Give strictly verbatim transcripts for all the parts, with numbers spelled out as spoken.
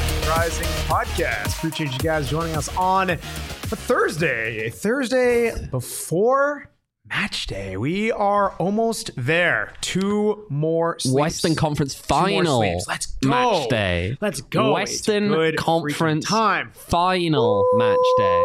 Rising Podcast. Appreciate you guys joining us on a Thursday, a Thursday before match day. We are almost there. Two more sleeps. Western Conference final. Let's go. Match day. Let's go. Western Conference time. final Woo! Match day.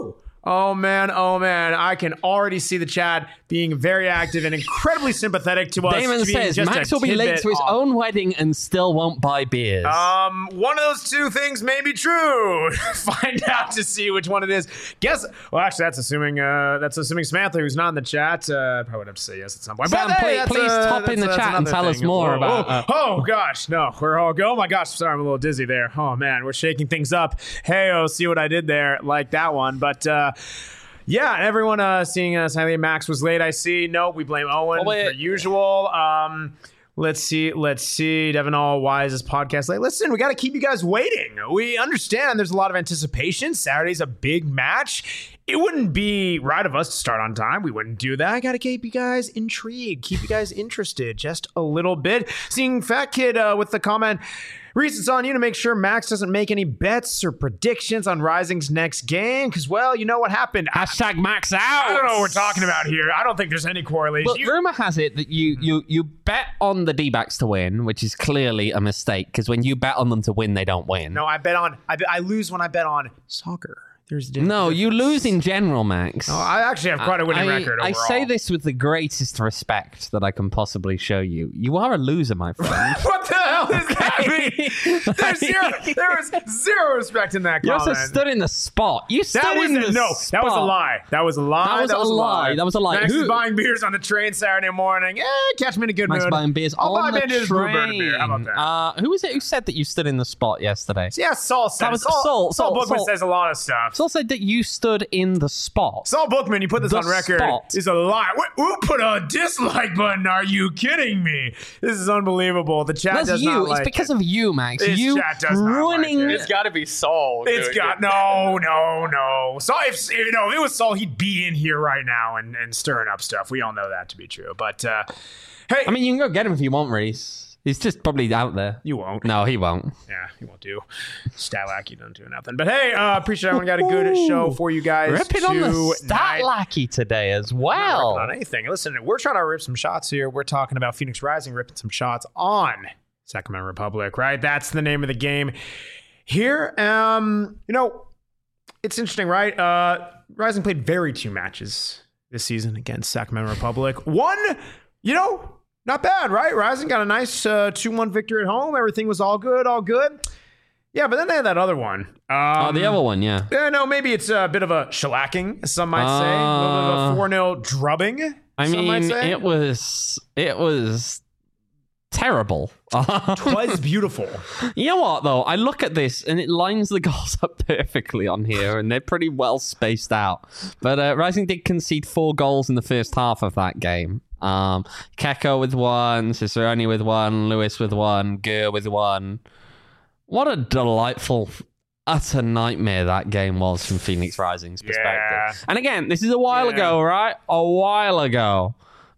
Oh man, oh man. I can already see the chat being very active and incredibly sympathetic to us. Damon says Max will be late to his off. own wedding and still won't buy beers. Um, one of those two things may be true. Find out to see which one it is. Guess. Well, actually, that's assuming. Uh, that's assuming Samantha, who's not in the chat, uh, probably would have to say yes at some point. Sam, but, hey, please, please uh, top in the chat and tell thing. us more Whoa, about. Whoa. Uh, oh gosh, no, we're all go. Oh my gosh, sorry, I'm a little dizzy there. Oh man, we're shaking things up. Hey, oh, see what I did there? Like that one, but. Uh, Yeah, everyone uh, seeing us. I think Max was late. I see. Nope, we blame Owen oh, per usual. Um, let's see. Let's see. Devin All, why is this podcast late? Listen, we got to keep you guys waiting. We understand there's a lot of anticipation. Saturday's a big match. It wouldn't be right of us to start on time. We wouldn't do that. I got to keep you guys intrigued, keep you guys interested just a little bit. Seeing Fat Kid uh, with the comment. Reese, it's on you to make sure Max doesn't make any bets or predictions on Rising's next game, because, well, you know what happened. Hashtag Max out. I don't know what we're talking about here. I don't think there's any correlation. But rumor has it that you you you bet on the D-backs to win, which is clearly a mistake, because when you bet on them to win, they don't win. No, I bet on. I, I lose when I bet on soccer. There's no, difference. you lose in general, Max. No, I actually have quite a winning I, record overall. I say this with the greatest respect that I can possibly show you. You are a loser, my friend. What the hell does that mean? There's zero, there is zero respect in that you comment. You also stood in the spot. You stood that was in a, the no, spot. That was a lie. That was a lie. That was, that a, was a lie. lie. That was a lie. Max Who? is buying beers on the train Saturday morning. Eh, catch me in a good Max mood. buying beers I'll on buy the Banditas Bluebird a beer. How about that? Uh, who was it who said that you stood in the spot yesterday? Yeah, Saul said. That was Saul, Saul. Saul, Saul Bookman Saul. says a lot of stuff. Saul said that you stood in the spot. Saul Bookman, you put this the on record, spot. is a lie. Wh- Who put a dislike button? Are you kidding me? This is unbelievable. The chat That's does you. not It's like because it. of you, Max. This you chat does not ruining. like it. It's got to be Saul. It's doing got it. no, no, no. Saul, if you know, if it was Saul, he'd be in here right now and, and stirring up stuff. We all know that to be true. But uh, hey, I mean, you can go get him if you want, Reese. He's just probably out there. You won't. No, he won't. Yeah, he won't do. Stat-lackey don't do nothing. But hey, uh, appreciate everyone got a good show for you guys. Ripping on the stat lackey today as well. Not on anything. Listen, we're trying to rip some shots here. We're talking about Phoenix Rising ripping some shots on Sacramento Republic, right? That's the name of the game here. Um, you know, it's interesting, right? Uh, Rising played very two matches this season against Sacramento Republic. One, you know, not bad, right? Rising got a nice uh, two one victory at home. Everything was all good, all good. Yeah, but then they had that other one. Um, oh, the other one, yeah. Yeah, no, maybe it's a bit of a shellacking, some might say. Uh, a little bit of a four nil drubbing, I some mean, might say. it was, it was terrible. It was beautiful. You know what, though? I look at this, and it lines the goals up perfectly on here, and they're pretty well spaced out. But uh, Rising did concede four goals in the first half of that game. Um, Keko with one, Cicerone with one, Lewis with one, Gurr with one. What a delightful, utter nightmare that game was from Phoenix Rising's perspective. Yeah. And again, this is a while Yeah. ago, right? A while ago.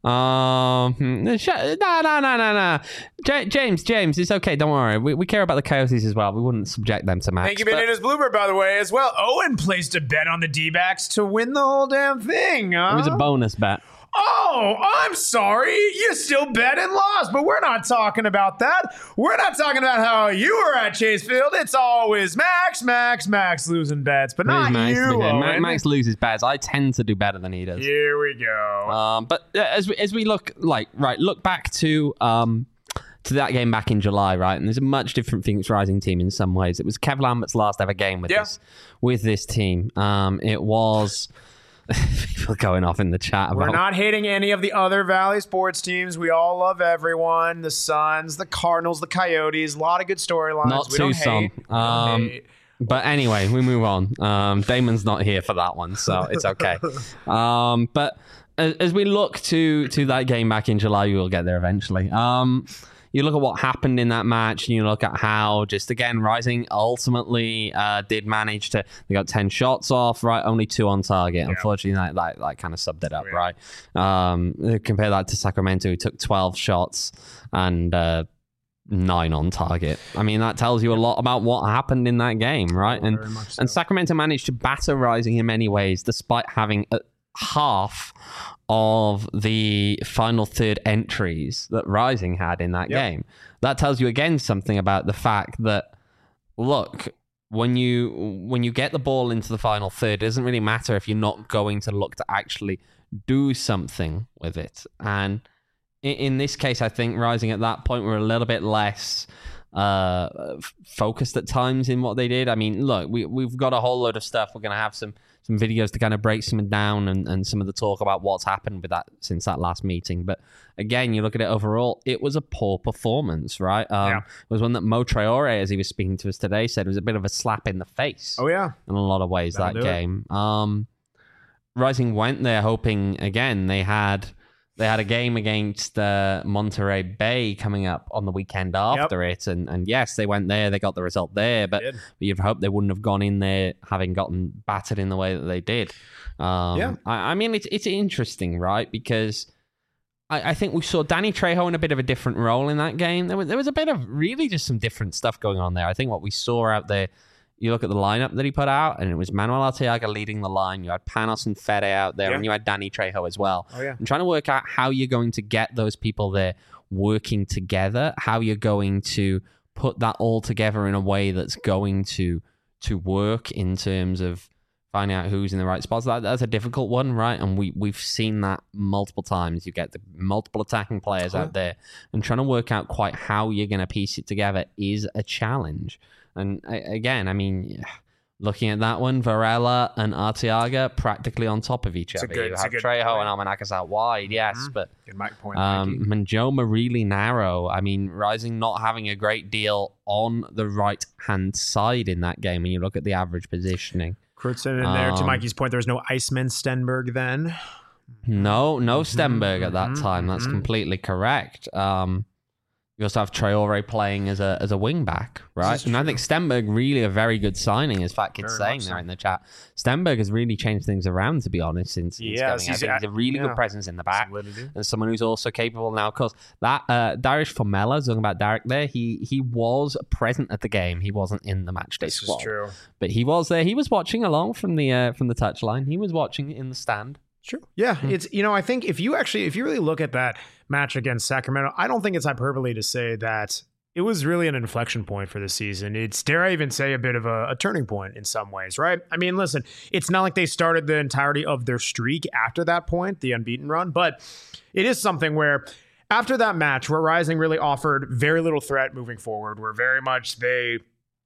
Um, no, no, no, no, no. J- James, James, it's okay. Don't worry. We we care about the Coyotes as well. We wouldn't subject them to Max. Thank you, but- Banditas Bluebird, by the way, as well. Owen placed a bet on the D-backs to win the whole damn thing. Huh? It was a bonus bet. Oh, I'm sorry. You still bet and lost, but we're not talking about that. We're not talking about how you were at Chase Field. It's always Max, Max, Max losing bets, but not Max, you, Ma- Owen. Max loses bets. I tend to do better than he does. Here we go. Um, but uh, as we, as we look like right, look back to um to that game back in July, right? And there's a much different Phoenix Rising team in some ways. It was Kev Lambert's last ever game with Yeah. this with this team. Um, it was. People going off in the chat about. We're not hating any of the other Valley sports teams. We all love everyone. The Suns, the Cardinals, the Coyotes. A lot of good storylines. Not we don't Tucson. hate. We don't Um, hate. But anyway, we move on. Um, Damon's not here for that one, so it's okay. um, but as, as we look to to that game back in July, we will get there eventually. Um, you look at what happened in that match, and you look at how just again Rising ultimately uh, did manage to. They got ten shots off, right? Only two on target. Yeah. Unfortunately, that, that that kind of subbed it up, Yeah. right? Um, compare that to Sacramento, who took twelve shots and. Uh, nine on target. I mean, that tells you a lot about what happened in that game, right? Oh, and very much so. and Sacramento managed to batter Rising in many ways, despite having a, half of the final third entries that Rising had in that yep. game. That tells you again something about the fact that, look, when you when you get the ball into the final third, it doesn't really matter if you're not going to look to actually do something with it. And in, in this case, I think Rising at that point were a little bit less uh, f- focused at times in what they did. I mean, look, we, we've got a whole load of stuff. We're going to have some some videos to kind of break some down and, and some of the talk about what's happened with that since that last meeting. But again, you look at it overall, it was a poor performance, right? Um, yeah. It was one that Mo Traore, as he was speaking to us today, said was a bit of a slap in the face. Oh, yeah. In a lot of ways, That'll that game. Um, Rising went there hoping, again, they had... They had a game against uh, Monterey Bay coming up on the weekend after yep. it. And, and yes, they went there. They got the result there. But, but you'd hope they wouldn't have gone in there having gotten battered in the way that they did. Um, yeah. I, I mean, it's it's interesting, right? Because I, I think we saw Danny Trejo in a bit of a different role in that game. There was, there was a bit of really just some different stuff going on there. I think what we saw out there, you look at the lineup that he put out, and it was Manuel Arteaga leading the line. You had Panos and Fede out there, yeah. and you had Danny Trejo as well. Oh, yeah. And trying to work out how you're going to get those people there working together, how you're going to put that all together in a way that's going to to work in terms of finding out who's in the right spots. That, that's a difficult one, right? And we, we've seen that multiple times. You get the multiple attacking players oh. out there, and trying to work out quite how you're going to piece it together is a challenge. And again, I mean, looking at that one, Varela and Arteaga practically on top of each it's other. Good, you have Trejo and Almanacas out wide, yes, mm-hmm. but good mic point, um, Manjoma really narrow. I mean, Rising not having a great deal on the right-hand side in that game when you look at the average positioning. Kurtzen in there. Um, to Mikey's point, there was no Iceman Stenberg then. No, no Stenberg mm-hmm. at that time. That's mm-hmm. completely correct. Um, You also have Traore playing as a as a wing back, right? And I think Stenberg really a very good signing, as Fat Kid's saying there so. in the chat. Stenberg has really changed things around, to be honest, since, since yeah, coming he's, out. He's a really yeah. good presence in the back, and someone who's also capable now. Of course, that uh, Darius Formella, talking about Derek there, he he was present at the game. He wasn't in the match day this squad, is true. But he was there. He was watching along from the uh, from the touchline. He was watching in the stand. True. Yeah, mm-hmm. it's, you know, I think if you actually, if you really look at that match against Sacramento, I don't think it's hyperbole to say that it was really an inflection point for the season. It's, dare I even say, a bit of a, a turning point in some ways, right? I mean, listen, it's not like they started the entirety of their streak after that point, the unbeaten run, but it is something where after that match where Rising really offered very little threat moving forward, where very much they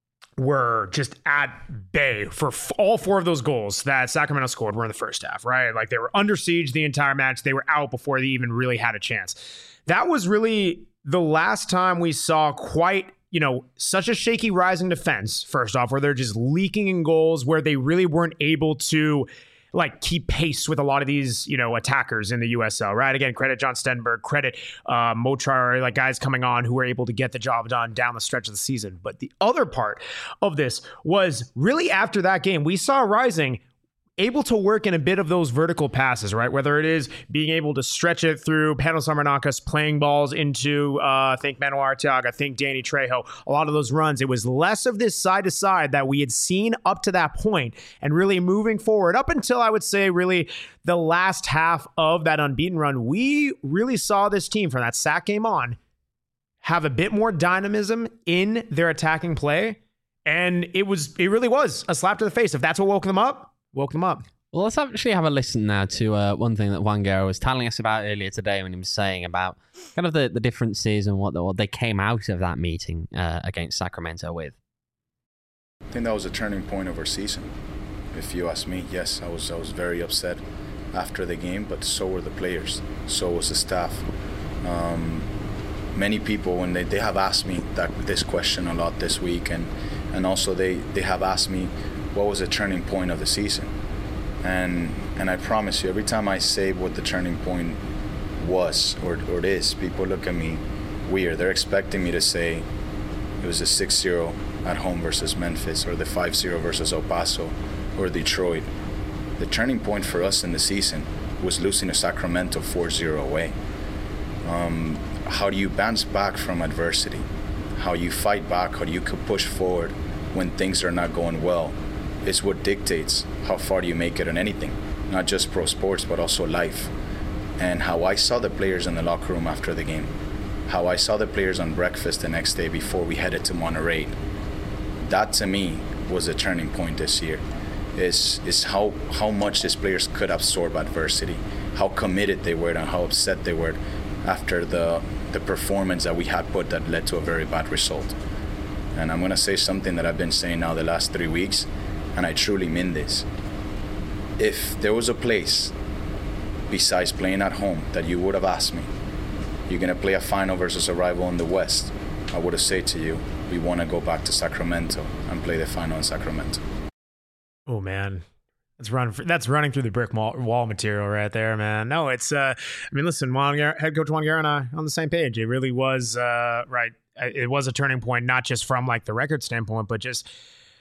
were just at bay for f- all four of those goals that Sacramento scored were in the first half, right? Like they were under siege the entire match. They were out before they even really had a chance. That was really the last time we saw quite, you know, such a shaky Rising defense, first off, where they're just leaking in goals, where they really weren't able to like keep pace with a lot of these, you know, attackers in the U S L, right? Again, credit John Stenberg, credit uh, Mo Traore, like guys coming on who were able to get the job done down the stretch of the season. But the other part of this was really after that game, we saw Rising able to work in a bit of those vertical passes, right? Whether it is being able to stretch it through Panos Armanacas, playing balls into, uh, I think Manuel Arteaga, I think Danny Trejo, a lot of those runs. It was less of this side to side that we had seen up to that point, and really moving forward up until I would say really the last half of that unbeaten run, we really saw this team from that Sac game on have a bit more dynamism in their attacking play. And it was, it really was a slap to the face. If that's what woke them up, woke them up. Well, let's actually have a listen now to uh, one thing that Juan Guerra was telling us about earlier today when he was saying about kind of the, the differences and what, the, what they came out of that meeting uh, against Sacramento with. I think that was a turning point of our season. If you ask me, yes, I was I was very upset after the game, but so were the players, so was the staff. Um, many people, when they, they have asked me that this question a lot this week, and, and also they, they have asked me, what was the turning point of the season? And and I promise you, every time I say what the turning point was or, or it is, people look at me weird. They're expecting me to say it was a six zero at home versus Memphis, or the five zero versus El Paso, or Detroit. The turning point for us in the season was losing to Sacramento four zero away. Um, how do you bounce back from adversity? how you fight back, how you could push forward when things are not going well, is what dictates how far you make it in anything, not just pro sports, but also life. And how I saw the players in the locker room after the game, how I saw the players on breakfast the next day before we headed to Monterrey, that to me was a turning point this year, is is how, how much these players could absorb adversity, how committed they were and how upset they were after the, the performance that we had put that led to a very bad result. And I'm going to say something that I've been saying now the last three weeks, and I truly mean this. If there was a place besides playing at home that you would have asked me, you're going to play a final versus a rival in the West, I would have said to you, we want to go back to Sacramento and play the final in Sacramento. Oh, man. That's running. That's running through the brick wall material right there, man. No, it's. Uh, I mean, listen, Juan Guerra, head coach Juan Guerra and I on the same page. It really was uh, right. It was a turning point, not just from like the record standpoint, but just,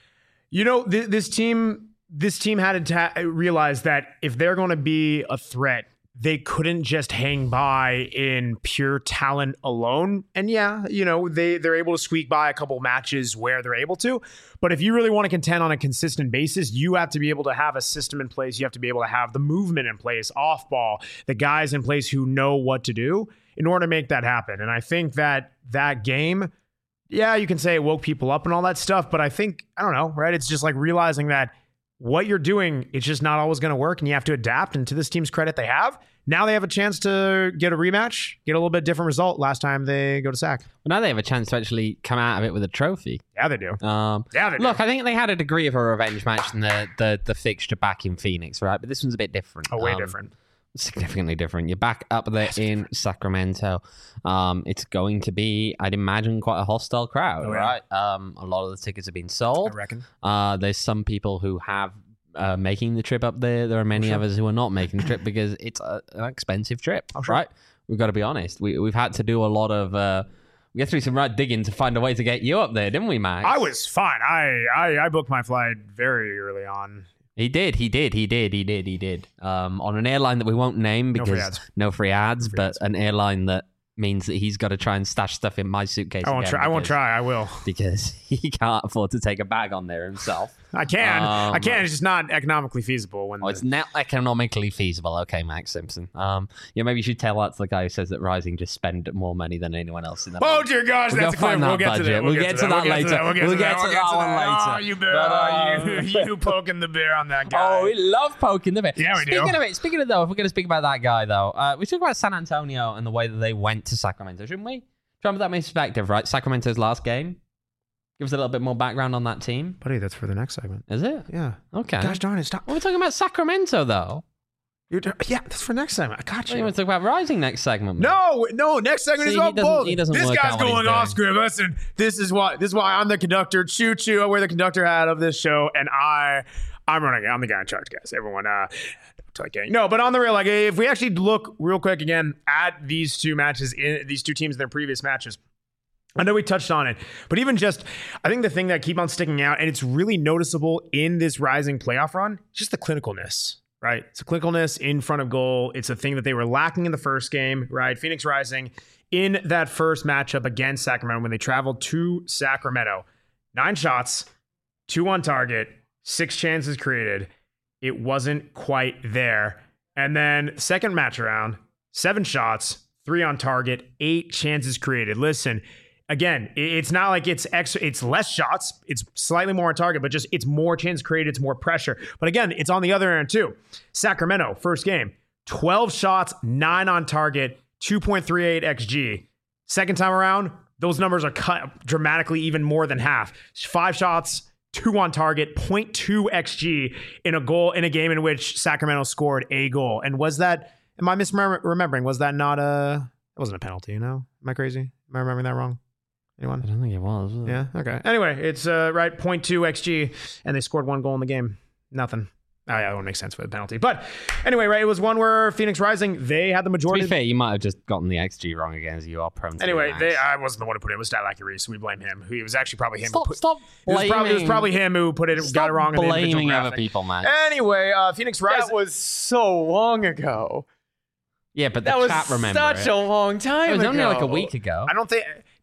you know, th- this team. This team had to ta- realize that if they're going to be a threat, they couldn't just hang by in pure talent alone. And yeah, you know, they, they're able to squeak by a couple matches where they're able to. But if you really want to contend on a consistent basis, you have to be able to have a system in place. You have to be able to have the movement in place, off ball, the guys in place who know what to do in order to make that happen. And I think that that game, yeah, you can say it woke people up and all that stuff. But I think, I don't know, right? It's just like realizing that what you're doing, it's just not always going to work, and you have to adapt. And to this team's credit, they have. Now they have a chance to get a rematch, get a little bit different result last time they go to Sac. Well, now they have a chance to actually come out of it with a trophy. Yeah, they do. Um, yeah, they do. Look, I think they had a degree of a revenge match in the, the, the fixture back in Phoenix, right? But this one's a bit different. Oh, way um, different. Significantly different. You're back up there in Sacramento. Um, it's going to be, I'd imagine, quite a hostile crowd, oh, yeah. right? Um, a lot of the tickets have been sold. I reckon. Uh, there's some people who have Uh, making the trip up there. There are many sure. others who are not making the trip because it's a, an expensive trip, oh, sure. right? We've got to be honest. We, we've had to do a lot of... Uh, we had to do some right digging to find a way to get you up there, didn't we, Max? I was fine. I, I, I booked my flight very early on. He did, he did, he did, he did, he did. Um, on an airline that we won't name because... No free ads. No free ads, no free but ads. An airline that means that he's got to try and stash stuff in my suitcase. I won't try. I won't try. I will. Because he can't afford to take a bag on there himself. I can. Um, I can. It's just not economically feasible. When oh, the... it's not economically feasible. Okay, Max Simpson. Um, yeah, maybe you should tell that to the guy who says that Rising just spend more money than anyone else in the. Oh dear gosh, we'll that's a clip. We'll get budget. to that. We'll get to that later. We'll get to that one later. Oh, you bear. Oh, you, you poking the bear on that guy. Oh, we love poking the bear. Yeah, we speaking do. Speaking of it, speaking of though, if we're going to speak about that guy though, uh, we talk about San Antonio and the way that they went to Sacramento, shouldn't we? Try and put that in perspective, right? Sacramento's last game. Give us a little bit more background on that team. Buddy, that's for the next segment. Is it? Yeah. Okay. Gosh darn it, stop. Well, we're talking about Sacramento, though. You're, yeah, that's for next segment. I got you. Well, you want to talk about Rising next segment? No, no, next segment See, is about both. This guy's going off script. Listen, this is why this is why I'm the conductor. Choo choo. I wear the conductor hat of this show, and I I'm running. I'm the guy in charge, guys. Everyone, uh Okay. No, but on the real, like, if we actually look real quick again at these two matches, in these two teams in their previous matches, I know we touched on it, but even just, I think the thing that keep on sticking out, and it's really noticeable in this Rising playoff run, just the clinicalness, right? It's a clinicalness in front of goal. It's a thing that they were lacking in the first game, right? Phoenix Rising in that first matchup against Sacramento when they traveled to Sacramento. Nine shots, two on target, six chances created. It wasn't quite there. And then second match around, seven shots, three on target, eight chances created. Listen, again, it's not like it's extra, it's less shots. It's slightly more on target, but just it's more chances created. It's more pressure. But again, it's on the other end too. Sacramento, first game, twelve shots, nine on target, two point three eight X G. Second time around, those numbers are cut dramatically, even more than half. Five shots, two on target, zero point two X G in a goal in a game in which Sacramento scored a goal. And was that, am I misremembering? Was that not a, it wasn't a penalty, you know? Am I crazy? Am I remembering that wrong? Anyone? I don't think it was. was it? Yeah, okay. Anyway, it's uh, right, zero point two X G, and they scored one goal in the game. Nothing. Oh, yeah, that won't make sense for the penalty. But anyway, right, it was one where Phoenix Rising, they had the majority. To be fair, you might have just gotten the X G wrong again, as you are prone to. Anyway, they, I wasn't the one who put it. It was Statlacky Reese, so we blame him. It was actually probably him. Stop, who put, stop it was, probably, it was probably him who put it, stop got it wrong in the individual blaming graphic. other people, man. Anyway, uh, Phoenix Rising. That was so long ago. Yeah, but the that chat was remember such it. a long time It was ago. only like a week ago. I don't think,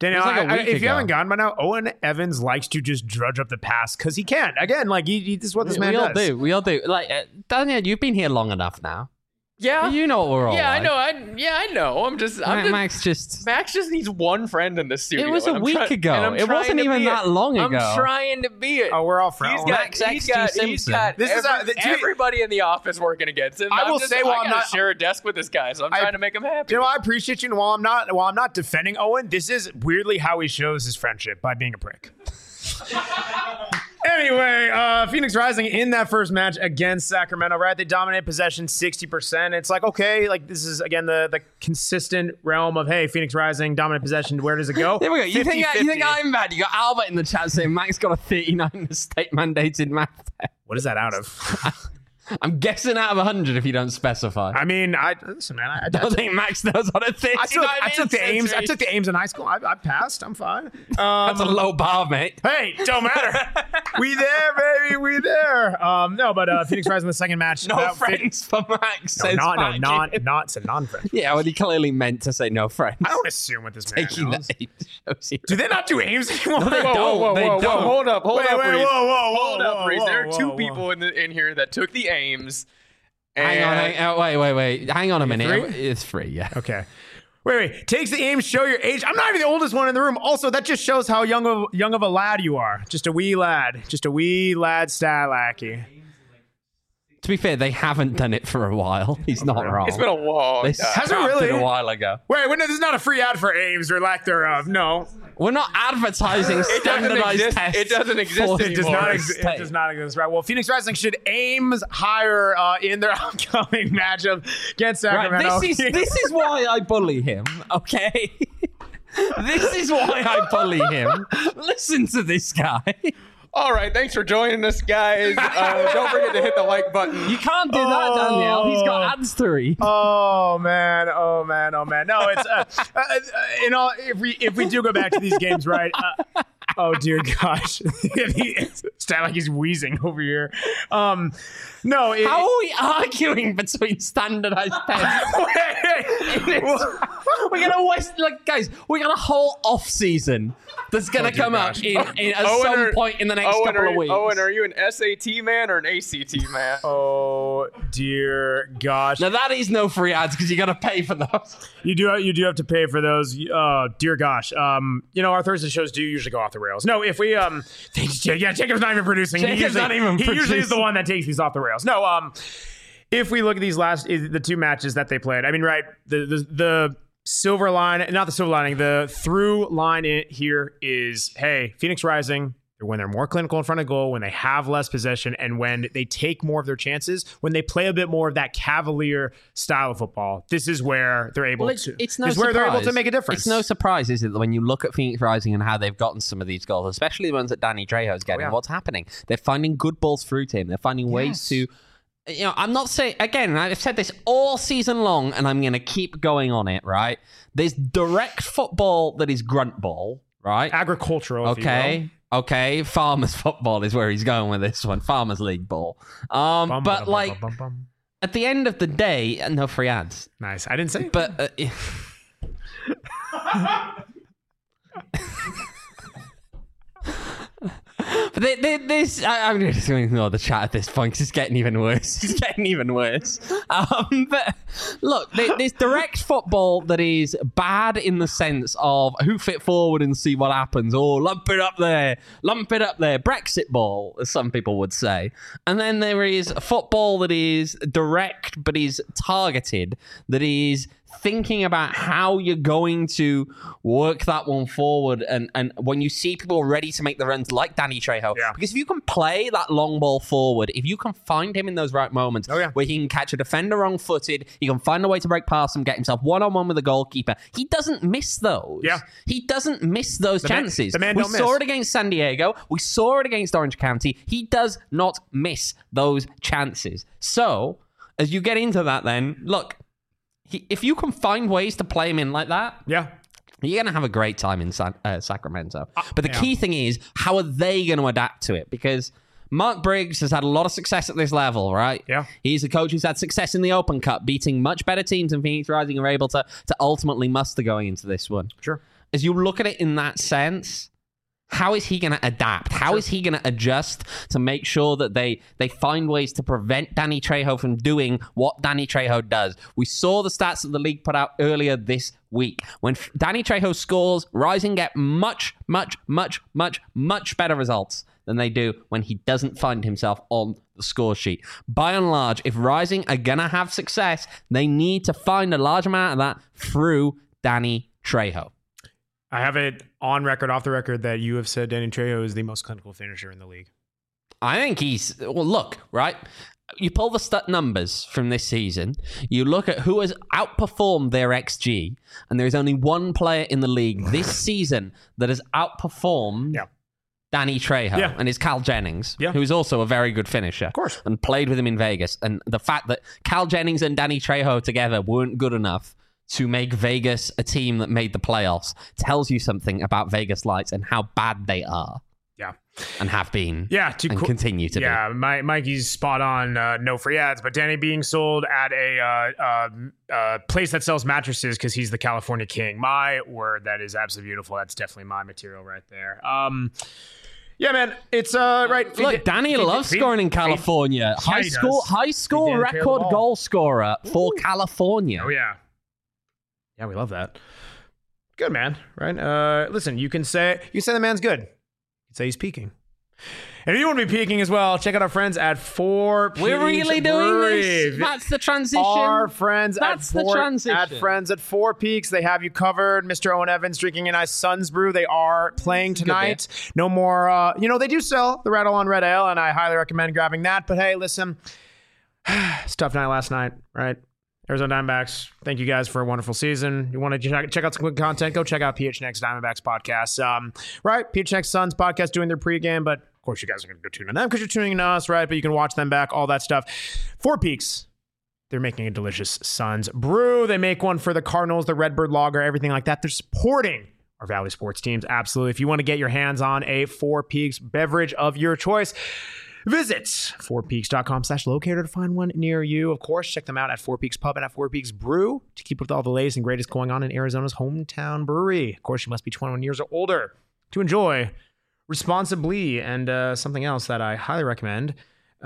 Daniel, It was like a I- I- week if you ago. haven't gone by now, Owen Evans likes to just drudge up the past because he can. Again, like he, he, this is what this we, man we all does. do. We all do. Like uh, Daniel, you've been here long enough now. Yeah. You know what we're all Yeah, like. I know. I yeah, I know. I'm just. I'm Ma- just Max just. Max just needs one friend in the studio. It was a and I'm week try- ago. and I'm It trying wasn't to even be that it. long I'm ago. trying to be it. Oh, we're all He's friends. got, Max he's X G got, he's Simpson. got This is every- a- the- to be- everybody in the office working against him. I I'm will just, say while I I'm gotta not- share a desk with this guy, so I'm I- trying to make him happy. You know, I appreciate you, and while I'm not, while I'm not defending Owen, this is weirdly how he shows his friendship by being a prick. Anyway, uh, Phoenix Rising in that first match against Sacramento, right? They dominate possession sixty percent. It's like, okay, like this is, again, the, the consistent realm of, hey, Phoenix Rising, dominant possession, where does it go? There we go. You think, fifty you think fifty. I'm bad? You got Albert in the chat saying Max got a thirty-nine state mandated math test. What is that out of? I'm guessing out of one hundred if you don't specify. I mean, I listen, man. I, I, I don't think Max knows what a thirty-nine I took, I took the is. Ames. I took the Ames in high school. I, I passed. I'm fine. Um, That's a low bar, mate. Hey, don't matter. we there, baby. We there. Um, no, but uh, Phoenix Rising in the second match. No about fit- friends for Max. No, says not, no, Mac. not, not, it's a non-friend. Yeah, well, he clearly meant to say no friends. I don't assume what this man Taking knows. the Ames shows you. Do they not do Ames anymore? No, they Whoa, don't. whoa, whoa, They whoa, don't. whoa, hold up, hold Wait, up, wait, Reese. whoa, whoa, Hold whoa, up, whoa, Reese. whoa, There are two whoa, people whoa. in the in here that took the Ames. Hang on, and- hang on, wait, wait, wait. Hang on a minute. three? It's free, yeah. Okay. Wait, wait. Takes the Ames, show your age. I'm not even the oldest one in the room. Also, that just shows how young of young of a lad you are. Just a wee lad. Just a wee lad stat lackey. To be fair, they haven't done it for a while. He's not wrong. It's been a long They time. Has it scrapped really? a while ago. Wait, wait, no, this is not a free ad for Ames or lack thereof. No. We're not advertising doesn't standardized exist- tests. it doesn't exist for anymore. It does Anymore. not exist. It does not exist. Right. Well, Phoenix Rising should Ames higher uh, in their upcoming matchup against Right, Sacramento. this is this is why I bully him. Okay, this is why I bully him. Listen to this guy. All right, thanks for joining us, guys. Uh, don't forget to hit the like button. You can't do that, Danielle. He's got ads to read. Oh man! Oh man! Oh man! No, it's uh, uh, uh, in all. If we if we do go back to these games, right? Uh, oh dear gosh! It's not like he's wheezing over here. Um, no. It, How are we arguing between standardized tests? We're gonna waste, like, guys. We got a whole off season that's gonna Oh, dear come gosh. up in, in at Owen, some are- point in the next Owen, couple are of you, weeks. Owen, are you an S A T man or an A C T man? Oh dear gosh! Now that is no free ads because you got to pay for those. You do you do have to pay for those. Oh dear gosh! Um, you know our Thursday shows do usually go off the rails. No, if we um, thanks, Jake. Yeah, Jacob's not even producing. Jacob's he usually, not even He usually is the producing. one that takes these off the rails. No, um, if we look at these last the two matches that they played, I mean, right, the the the silver line, not the silver lining, the through line in here is, hey, Phoenix Rising. When they're more clinical in front of goal, when they have less possession, and when they take more of their chances, when they play a bit more of that cavalier style of football, this is where they're able Well, it's, to. it's no this is where they're able to surprise. make a difference. It's no surprise, is it, that when you look at Phoenix Rising and how they've gotten some of these goals, especially the ones that Danny Trejo's getting, yeah. what's happening? They're finding good balls through to him. They're finding ways Yes. to. You know, I'm not saying, again, I've said this all season long, and I'm going to keep going on it, right? There's direct football that is grunt ball, right? agricultural. If Okay. You will. Okay, farmers football is where he's going with this one. Farmers league ball. Um, Bum, but bum, like bum, bum, bum. at the end of the day, uh, no free ads. Nice. I didn't say. But uh, but they, they, this, I, I'm just going to ignore the chat at this point because it's getting even worse. It's getting even worse. Um, but look, there- there's direct football that is bad in the sense of hoof it forward and see what happens. Oh, lump it up there, lump it up there. Brexit ball, as some people would say. And then there is football that is direct but is targeted, that is thinking about how you're going to work that one forward, and and when you see people ready to make the runs like Danny Trejo, Yeah. because if you can play that long ball forward, if you can find him in those right moments Oh, yeah. where he can catch a defender wrong-footed, he can find a way to break past him, get himself one-on-one with the goalkeeper, he doesn't miss those. Yeah. He doesn't miss those The man- chances. the man we don't saw miss. it against San Diego. We saw it against Orange County. He does not miss those chances. So, as you get into that then, look, he, if you can find ways to play him in like that, Yeah. you're going to have a great time in San, uh, Sacramento. But the yeah. key thing is, how are they going to adapt to it? Because Mark Briggs has had a lot of success at this level, right? Yeah. He's a coach who's had success in the Open Cup, beating much better teams than Phoenix Rising are able to, to ultimately muster going into this one. Sure. as you look at it in that sense, how is he going to adapt? How sure. is he going to adjust to make sure that they they find ways to prevent Danny Trejo from doing what Danny Trejo does? We saw the stats that the league put out earlier this week. When Danny Trejo scores, Rising get much, much, much, much, much better results than they do when he doesn't find himself on the score sheet. By and large, if Rising are going to have success, they need to find a large amount of that through Danny Trejo. I have it on record, off the record, that you have said Danny Trejo is the most clinical finisher in the league. I think he's... Well, look, right? You pull the stat numbers from this season, you look at who has outperformed their X G, and there's only one player in the league this season that has outperformed yeah. Danny Trejo, yeah. and it's Cal Jennings, yeah. who's also a very good finisher. Of course. And played with him in Vegas. And the fact that Cal Jennings and Danny Trejo together weren't good enough to make Vegas a team that made the playoffs tells you something about Vegas Lights and how bad they are. Yeah. And have been. Yeah. To and co- continue to yeah, be. Yeah. My, Mikey's spot on. Uh, no free ads, but Danny being sold at a uh, uh, uh, place that sells mattresses because he's the California king. My word, that is absolutely beautiful. That's definitely my material right there. Um, yeah, man, it's uh right. Look, feed, Danny feed, loves feed, scoring in California. Feed, high yeah, school, does. high school record goal scorer for Ooh. California. Oh yeah. Yeah, we love that. Good, man. Right? Uh, listen, you can say you can say the man's good. You can say he's peaking. And if you want to be peaking as well, check out our friends at Four Peaks. We're really doing Brewery. this. That's the transition. Our friends That's at Four, the transition. At friends at Four Peaks, they have you covered. Mister Owen Evans drinking a nice Suns brew. They are playing tonight. No more. Uh, you know they do sell the Rattle on Red Ale, and I highly recommend grabbing that. But hey, listen, it's a tough night last night, right? Arizona Diamondbacks, thank you guys for a wonderful season. You want to check, check out some good content, go check out P H N X Diamondbacks podcast. Um, right, P H N X Suns podcast doing their pregame, but of course you guys are going to go tune in them because you're tuning in to us, right? But you can watch them back, all that stuff. Four Peaks, they're making a delicious Suns brew. They make one for the Cardinals, the Redbird Lager, everything like that. They're supporting our Valley sports teams, absolutely. If you want to get your hands on a Four Peaks beverage of your choice, visit fourpeaks.com slash locator to find one near you. Of course, check them out at Four Peaks Pub and at Four Peaks Brew to keep up with all the latest and greatest going on in Arizona's hometown brewery. Of course, you must be twenty-one years or older to enjoy responsibly. And uh, something else that I highly recommend.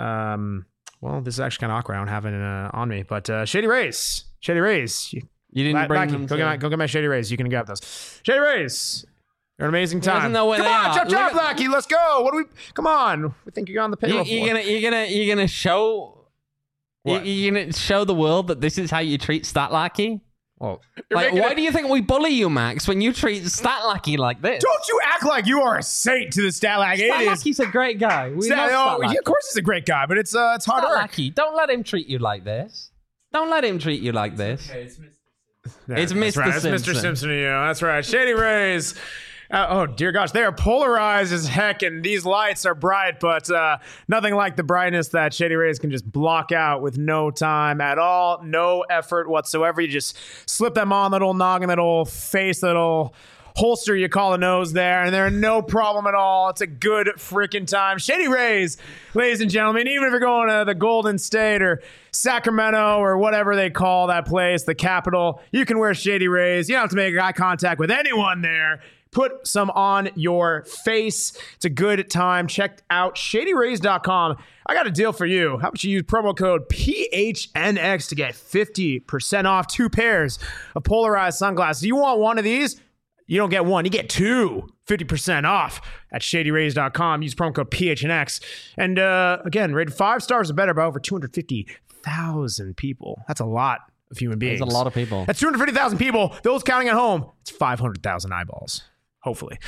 Um, well, this is actually kind of awkward. I don't have it uh, on me, but uh, Shady Rays. Shady Rays. You, you didn't bring Lackey, them go, to... get my, go get my Shady Rays. You can grab those. Shady Rays. You're an amazing time. Come on, chop chop, Lackey. Let's go. What do we? Come on. We think you're on the payroll. You, you're gonna, you're gonna, you're gonna show. What? You're gonna show the world that this is how you treat Stat Lackey. Well, like, why a... do you think we bully you, Max, when you treat Stat Lackey like this? Don't you act like you are a saint to the Stat Lackey. Stat Lackey's a great guy. We Stat, love oh, Stat of course, he's a great guy, but it's uh, it's hard Stat work. Lackey, don't let him treat you like this. Don't let him treat you like this. Okay, it's Mister Yeah, it's Mister Right. Simpson. It's Mister Simpson. You know, that's right. Shady Rays. Uh, oh, dear gosh. They are polarized as heck, and these lights are bright, but uh, nothing like the brightness that Shady Rays can just block out with no time at all, no effort whatsoever. You just slip them on, that old noggin, that old face, that old holster you call a nose there, and they're no problem at all. It's a good freaking time. Shady Rays, ladies and gentlemen, even if you're going to the Golden State or Sacramento or whatever they call that place, the capital, you can wear Shady Rays. You don't have to make eye contact with anyone there. Put some on your face. It's a good time. Check out shady rays dot com. I got a deal for you. How about you use promo code P H N X to get fifty percent off two pairs of polarized sunglasses. You want one of these? You don't get one. You get two. fifty percent off at shady rays dot com. Use promo code P H N X. And uh, again, rated five stars or better by over two hundred fifty thousand people. That's a lot of human beings. That's a lot of people. That's two hundred fifty thousand people. Those counting at home, it's five hundred thousand eyeballs. Hopefully.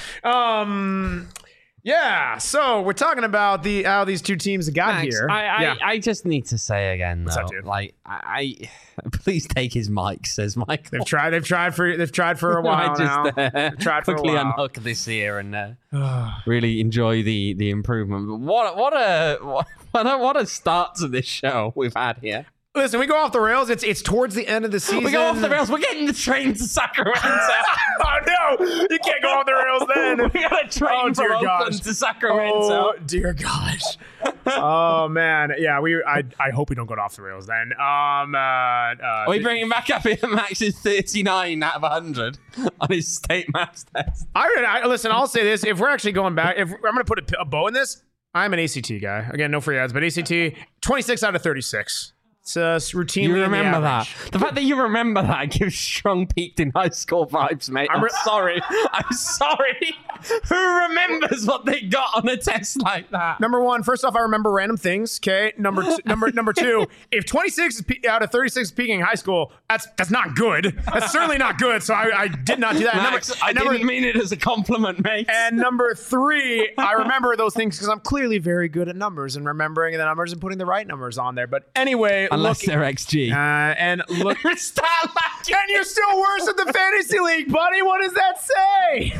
Um, yeah. So we're talking about the how these two teams got Max, here. I, I, yeah. I just need to say again, though, What's up, dude? like, I, I please take his mic, says Michael. They've tried. They've tried for. They've tried for a while I just, now. Uh, They've tried for quickly a while. unhook this year and uh, really enjoy the the improvement. But what what a what a what a start to this show we've had here. Listen, we go off the rails. It's it's towards the end of the season. We go off the rails. We're getting the train to Sacramento. Oh no! You can't go off the rails then. We got a train Oh, from dear Oakland gosh. to Sacramento. Oh dear gosh! Oh man, yeah. We. I. I hope we don't go off the rails then. Um. Uh, uh, Are we bringing back up here? Max is thirty-nine out of one hundred on his state maths test. I, I listen. I'll say this: if we're actually going back, if I'm going to put a, a bow in this, I'm an A C T guy. Again, no free ads, but A C T twenty-six out of thirty-six. It's uh, routinely. You in the remember that? average. The fact that you remember that gives strong peaked in high school vibes, mate. I'm, I'm re- sorry. I'm sorry. Who remembers what they got on a test like that? Number one, first off, I remember random things. Okay. Number two, number number two, if twenty-six is pe- out of thirty-six is peaking in high school, that's that's not good. That's certainly not good. So I, I did not do that. And Max, number, I and number, didn't mean it as a compliment, mate. And number three, I remember those things because I'm clearly very good at numbers and remembering the numbers and putting the right numbers on there. But anyway, Unless look, they're X G. uh, and look, Stop laughing. and you're still worse at the fantasy league, buddy. What does that say?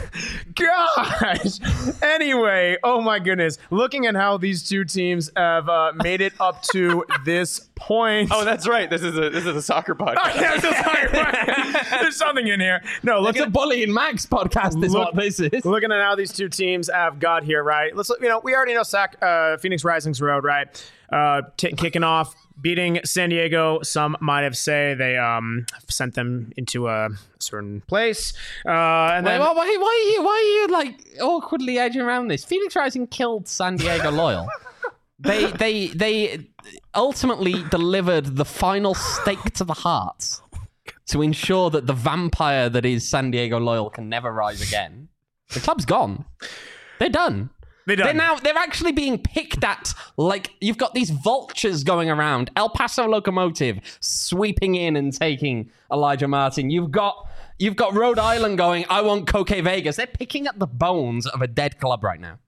Gosh. Anyway, oh my goodness. Looking at how these two teams have uh, made it up to this point. Oh, that's right. This is a this is a soccer podcast. Oh, yeah, so sorry. There's something in here. No, look It's at a Bully and Max podcast is Look- what this is. Looking at how these two teams have got here, right? Let's look, you know, we already know Sac, uh, Phoenix Rising's road, right? Uh, t- kicking off, beating San Diego. Some might have say they um sent them into a certain place. Uh, and Wait, then why, why, why are you, why are you like awkwardly edging around this? Phoenix Rising killed San Diego Loyal. They, they, they ultimately delivered the final stake to the heart to ensure that the vampire that is San Diego Loyal can never rise again. The club's gone. They're done. They're done. They're now they're actually being picked at like you've got these vultures going around. El Paso Locomotive sweeping in and taking Elijah Martin. You've got you've got Rhode Island going, I want Coque Vegas. They're picking at the bones of a dead club right now.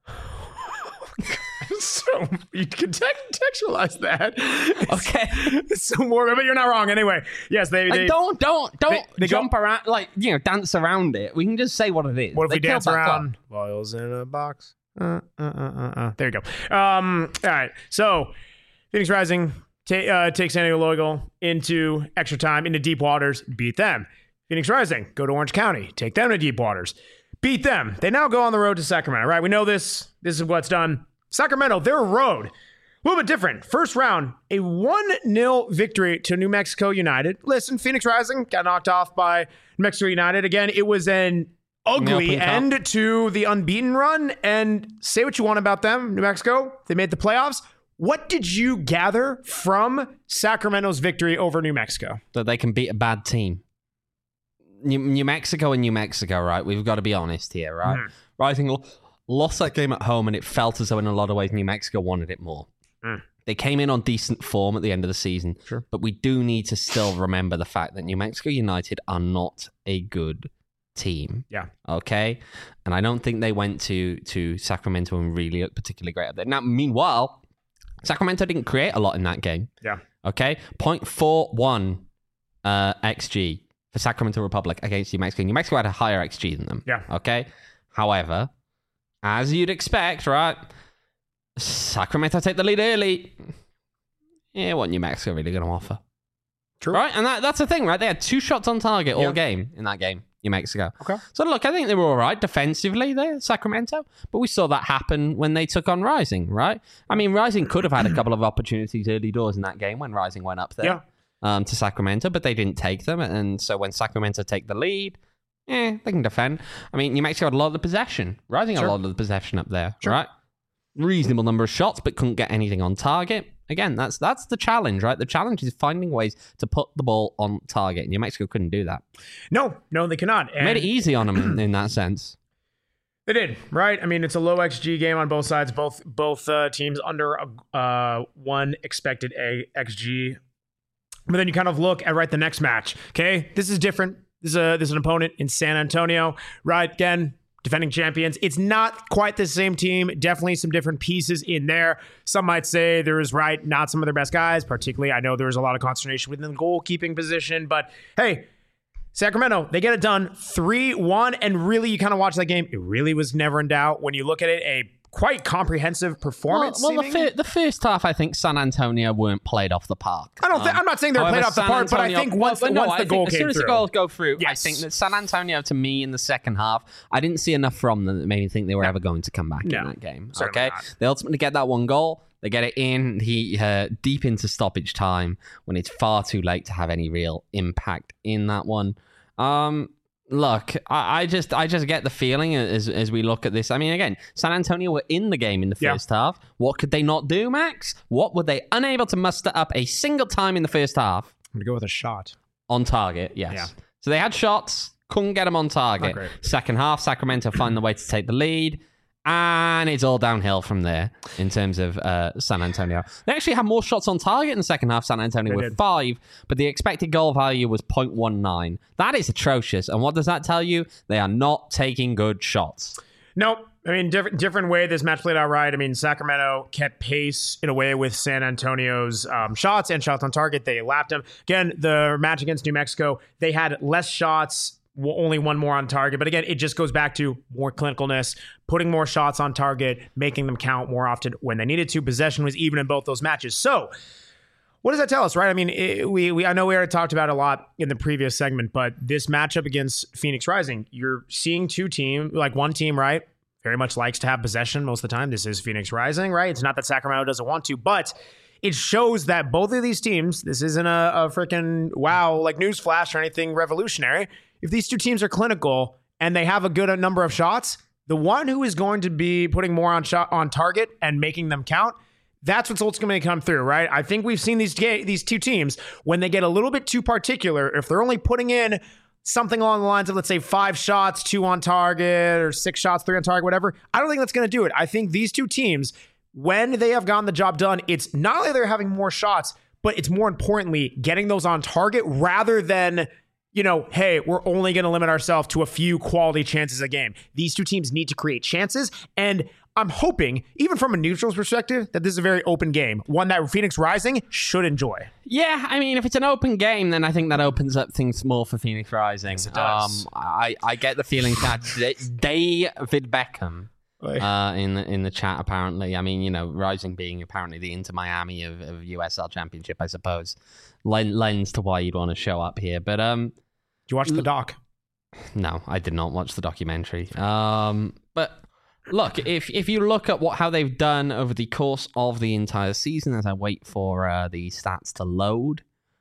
so you can te- contextualize that. Okay. It's so more, but you're not wrong. Anyway, yes, they. Like, they don't don't don't they- they jump go- around like you know dance around it. We can just say what it is. What if They we killed dance that club. around? Loyals in a box. Uh, uh, uh, uh, uh. There you go. Um, all right. So, Phoenix Rising ta- uh, takes San Diego Loyal into extra time, into deep waters, beat them. Phoenix Rising, go to Orange County, take them to deep waters, beat them. They now go on the road to Sacramento, right? We know this. This is what's done. Sacramento, their road, a little bit different. First round, a one nil victory to New Mexico United. Listen, Phoenix Rising got knocked off by New Mexico United. Again, it was an ugly Open cup. end to the unbeaten run. And say what you want about them, New Mexico. They made the playoffs. What did you gather from Sacramento's victory over New Mexico? That they can beat a bad team. New, New Mexico and New Mexico, right? We've got to be honest here, right? Mm. Rising lo- lost that game at home, and it felt as though in a lot of ways New Mexico wanted it more. Mm. They came in on decent form at the end of the season, Sure. but we do need to still remember the fact that New Mexico United are not a good team. Yeah. Okay? And I don't think they went to, to Sacramento and really looked particularly great up there. Now, meanwhile, Sacramento didn't create a lot in that game. Yeah. Okay? point four one uh, X G for Sacramento Republic against New Mexico. New Mexico had a higher X G than them. Yeah. Okay? However, as you'd expect, right? Sacramento take the lead early. Yeah, what New Mexico really going to offer? True. Right? And that, that's the thing, right? They had two shots on target all Yeah. game in that game, New Mexico. Okay. So look, I think they were all right defensively there, Sacramento. But we saw that happen when they took on Rising, right? I mean, Rising could have had a couple of opportunities early doors in that game when Rising went up there Yeah. um, to Sacramento, but they didn't take them. And so when Sacramento take the lead, eh, they can defend. I mean, New Mexico had a lot of the possession. Rising had Sure. a lot of the possession up there, Sure. right? Reasonable number of shots, but couldn't get anything on target. Again, that's that's the challenge, right? The challenge is finding ways to put the ball on target. New Mexico couldn't do that. No, no, they cannot. And Made it easy on them in, in that sense. They did, right? I mean, it's a low X G game on both sides. Both both uh, teams under a, uh, one expected a X G. But then you kind of look at right the next match. Okay, this is different. This is a this is an opponent in San Antonio, right? Again, defending champions. It's not quite the same team. Definitely some different pieces in there. Some might say there is right not some of their best guys. Particularly, I know there was a lot of consternation within the goalkeeping position. But hey, Sacramento, they get it done three one. And really, you kind of watch that game. It really was never in doubt. When you look at it, a quite comprehensive performance. Well, well the, fir- the first half, I think San Antonio weren't played off the park. I don't. Th- Um, I'm not saying they were however, played off the San park, but I Antonio- think once, well, but no, once I the think goal as came soon as through, the goals go through, I Yes. think that San Antonio, to me, in the second half, I didn't see enough from them that made me think they were ever going to come back No, in that game. certainly Okay, not. they ultimately get that one goal. They get it in he uh, deep into stoppage time when it's far too late to have any real impact in that one. Um, look, I, I just I just get the feeling as as we look at this. I mean, again, San Antonio were in the game in the Yeah. first half. What could they not do, Max? What were they unable to muster up a single time in the first half? I'm gonna go with a shot. On target, yes. Yeah. So they had shots, couldn't get them on target. Not great. Second half, Sacramento find the way to take the lead, and it's all downhill from there in terms of uh, San Antonio. They actually had more shots on target in the second half, San Antonio, They with did. five, but the expected goal value was point one nine. That is atrocious. And what does that tell you? They are not taking good shots. Nope. I mean, different different way this match played out right. I mean, Sacramento kept pace in a way with San Antonio's um, shots and shots on target. They lapped them. Again, the match against New Mexico, they had less shots, w- only one more on target. But again, it just goes back to more clinicalness, putting more shots on target, making them count more often when they needed to. Possession was even in both those matches. So, what does that tell us, right? I mean, it, we we I know we already talked about it a lot in the previous segment, but this matchup against Phoenix Rising, you're seeing two teams, like one team, right? Very much likes to have possession most of the time. This is Phoenix Rising, right? It's not that Sacramento doesn't want to, but it shows that both of these teams, this isn't a, a freaking wow, like newsflash or anything revolutionary. If these two teams are clinical and they have a good number of shots, the one who is going to be putting more on shot on target and making them count, that's what's ultimately going to come through, right? I think we've seen these ga- these two teams, when they get a little bit too particular, if they're only putting in something along the lines of, let's say, five shots, two on target, or six shots, three on target, whatever, I don't think that's going to do it. I think these two teams, when they have gotten the job done, it's not only they're having more shots, but it's more importantly getting those on target rather than, you know, hey, we're only going to limit ourselves to a few quality chances a game. These two teams need to create chances, and I'm hoping, even from a neutral's perspective, that this is a very open game, one that Phoenix Rising should enjoy. Yeah, I mean, if it's an open game, then I think that opens up things more for Phoenix Rising. Yes, it does. Um, I, I get the feeling that they, David Beckham uh, in the in the chat, apparently. I mean, you know, Rising being apparently the Inter Miami of, of U S L Championship, I suppose, lend, lends to why you'd want to show up here. But um, Did you watch the doc? no, I did not watch the documentary. Um, but look, if if you look at what how they've done over the course of the entire season, as I wait for uh, the stats to load,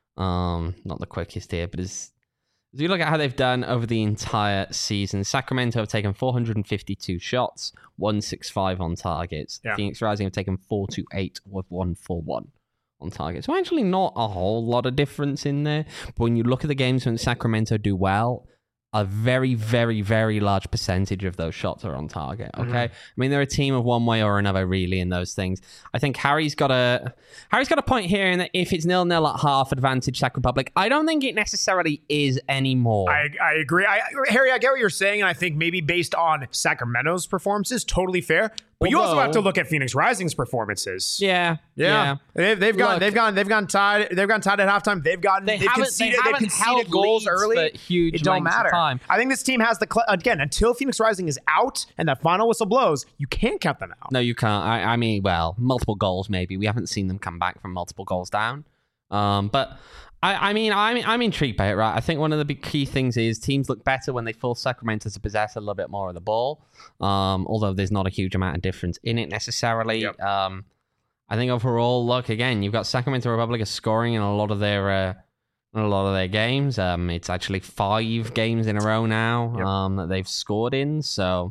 um, not the quickest here, but as, as you look at how they've done over the entire season, Sacramento have taken four hundred fifty-two shots, one sixty-five on targets. Yeah. Phoenix Rising have taken four twenty-eight with one forty-one on target. So actually not a whole lot of difference in there. But when you look at the games when Sacramento do well, a very, very, very large percentage of those shots are on target. Okay, Mhm. I mean they're a team of one way or another, really, in those things. I think Harry's got a Harry's got a point here in that if it's nil nil at half, advantage Sac Republic. I don't think it necessarily is anymore. I, I agree. I, Harry, I get what you're saying, and I think maybe based on Sacramento's performances, totally fair. But you also Although- have to look at Phoenix Rising's performances. yeah, Yeah, They've, they've gone. Look- they've gone. They've gone tied. They've gone tied at halftime. They've gotten. They They have haven't- conceded. they They have haven't conceded held goals leads early. for huge it don't lengths of matter. time. I think this team has the cl- again until Phoenix Rising is out and that final whistle blows. You can't count them out. No, you can't. I, I mean, well, multiple goals maybe. We haven't seen them come back from multiple goals down. Um, but I, I mean, I'm I'm intrigued by it, right? I think one of the big key things is teams look better when they force Sacramento to possess a little bit more of the ball. Um, although there's not a huge amount of difference in it necessarily. Yep. Um, I think overall, look again, you've got Sacramento Republic is scoring in a lot of their uh, in a lot of their games. Um, it's actually five games in a row now Yep. um, that they've scored in. So.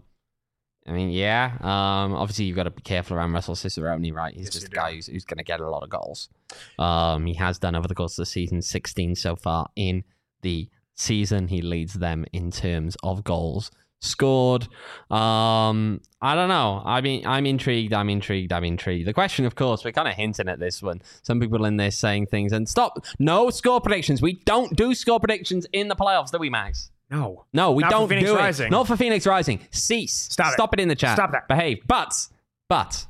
I mean, yeah. Um, obviously, you've got to be careful around Russell Cicerone, right? He's Yes, just you a guy do. who's, who's going to get a lot of goals. Um, he has done over the course of the season, sixteen so far in the season. He leads them in terms of goals scored. Um, I don't know. I mean, I'm intrigued. I'm intrigued. I'm intrigued. The question, of course, we're kind of hinting at this one. Some people in there saying things and stop. No score predictions. We don't do score predictions in the playoffs, do we, Max? No. No, we Not for don't Phoenix do Rising. it. Not for Phoenix Rising. Cease. Stop it. Stop it in the chat. Stop that. Behave. But, but,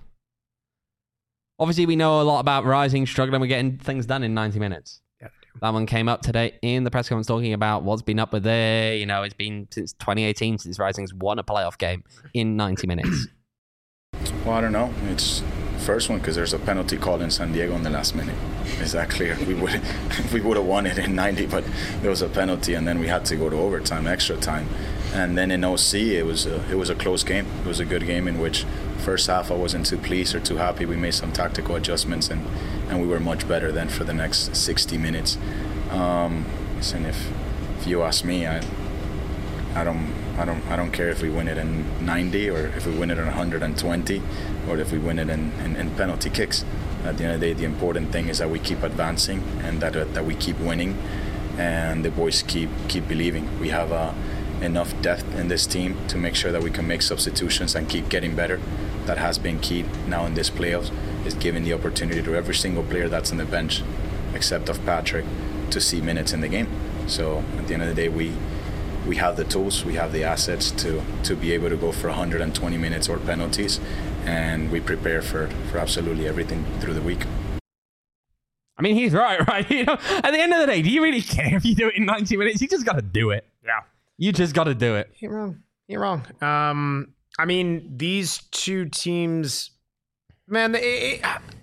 obviously we know a lot about Rising struggling with getting things done in ninety minutes. Yeah, That one came up today in the press conference talking about what's been up with there. You know, it's been since twenty eighteen since Rising's won a playoff game in ninety minutes. Well, I don't know. It's first one because there's a penalty call in San Diego in the last minute. Is that clear? We would we would have won it in ninety, but there was a penalty, and then we had to go to overtime, extra time, and then in O C it was a, it was a close game. It was a good game in which first half I wasn't too pleased or too happy. We made some tactical adjustments, and, and we were much better then for the next sixty minutes. Um, listen, if if you ask me, I I don't. I don't I don't care if we win it in ninety or if we win it in one hundred twenty or if we win it in, in, in penalty kicks. At the end of the day, the important thing is that we keep advancing and that uh, that we keep winning, and the boys keep keep believing. We have uh, enough depth in this team to make sure that we can make substitutions and keep getting better. That has been key now in this playoffs, is giving the opportunity to every single player that's on the bench, except of Patrick, to see minutes in the game. So at the end of the day, we we have the tools, we have the assets to to be able to go for one hundred twenty minutes or penalties, and we prepare for, for absolutely everything through the week. I mean, he's right, right? You know, at the end of the day, do you really care if you do it in ninety minutes? You just got to do it. Yeah. You just got to do it. You're wrong. You're wrong. Um, I mean, these two teams, man, it,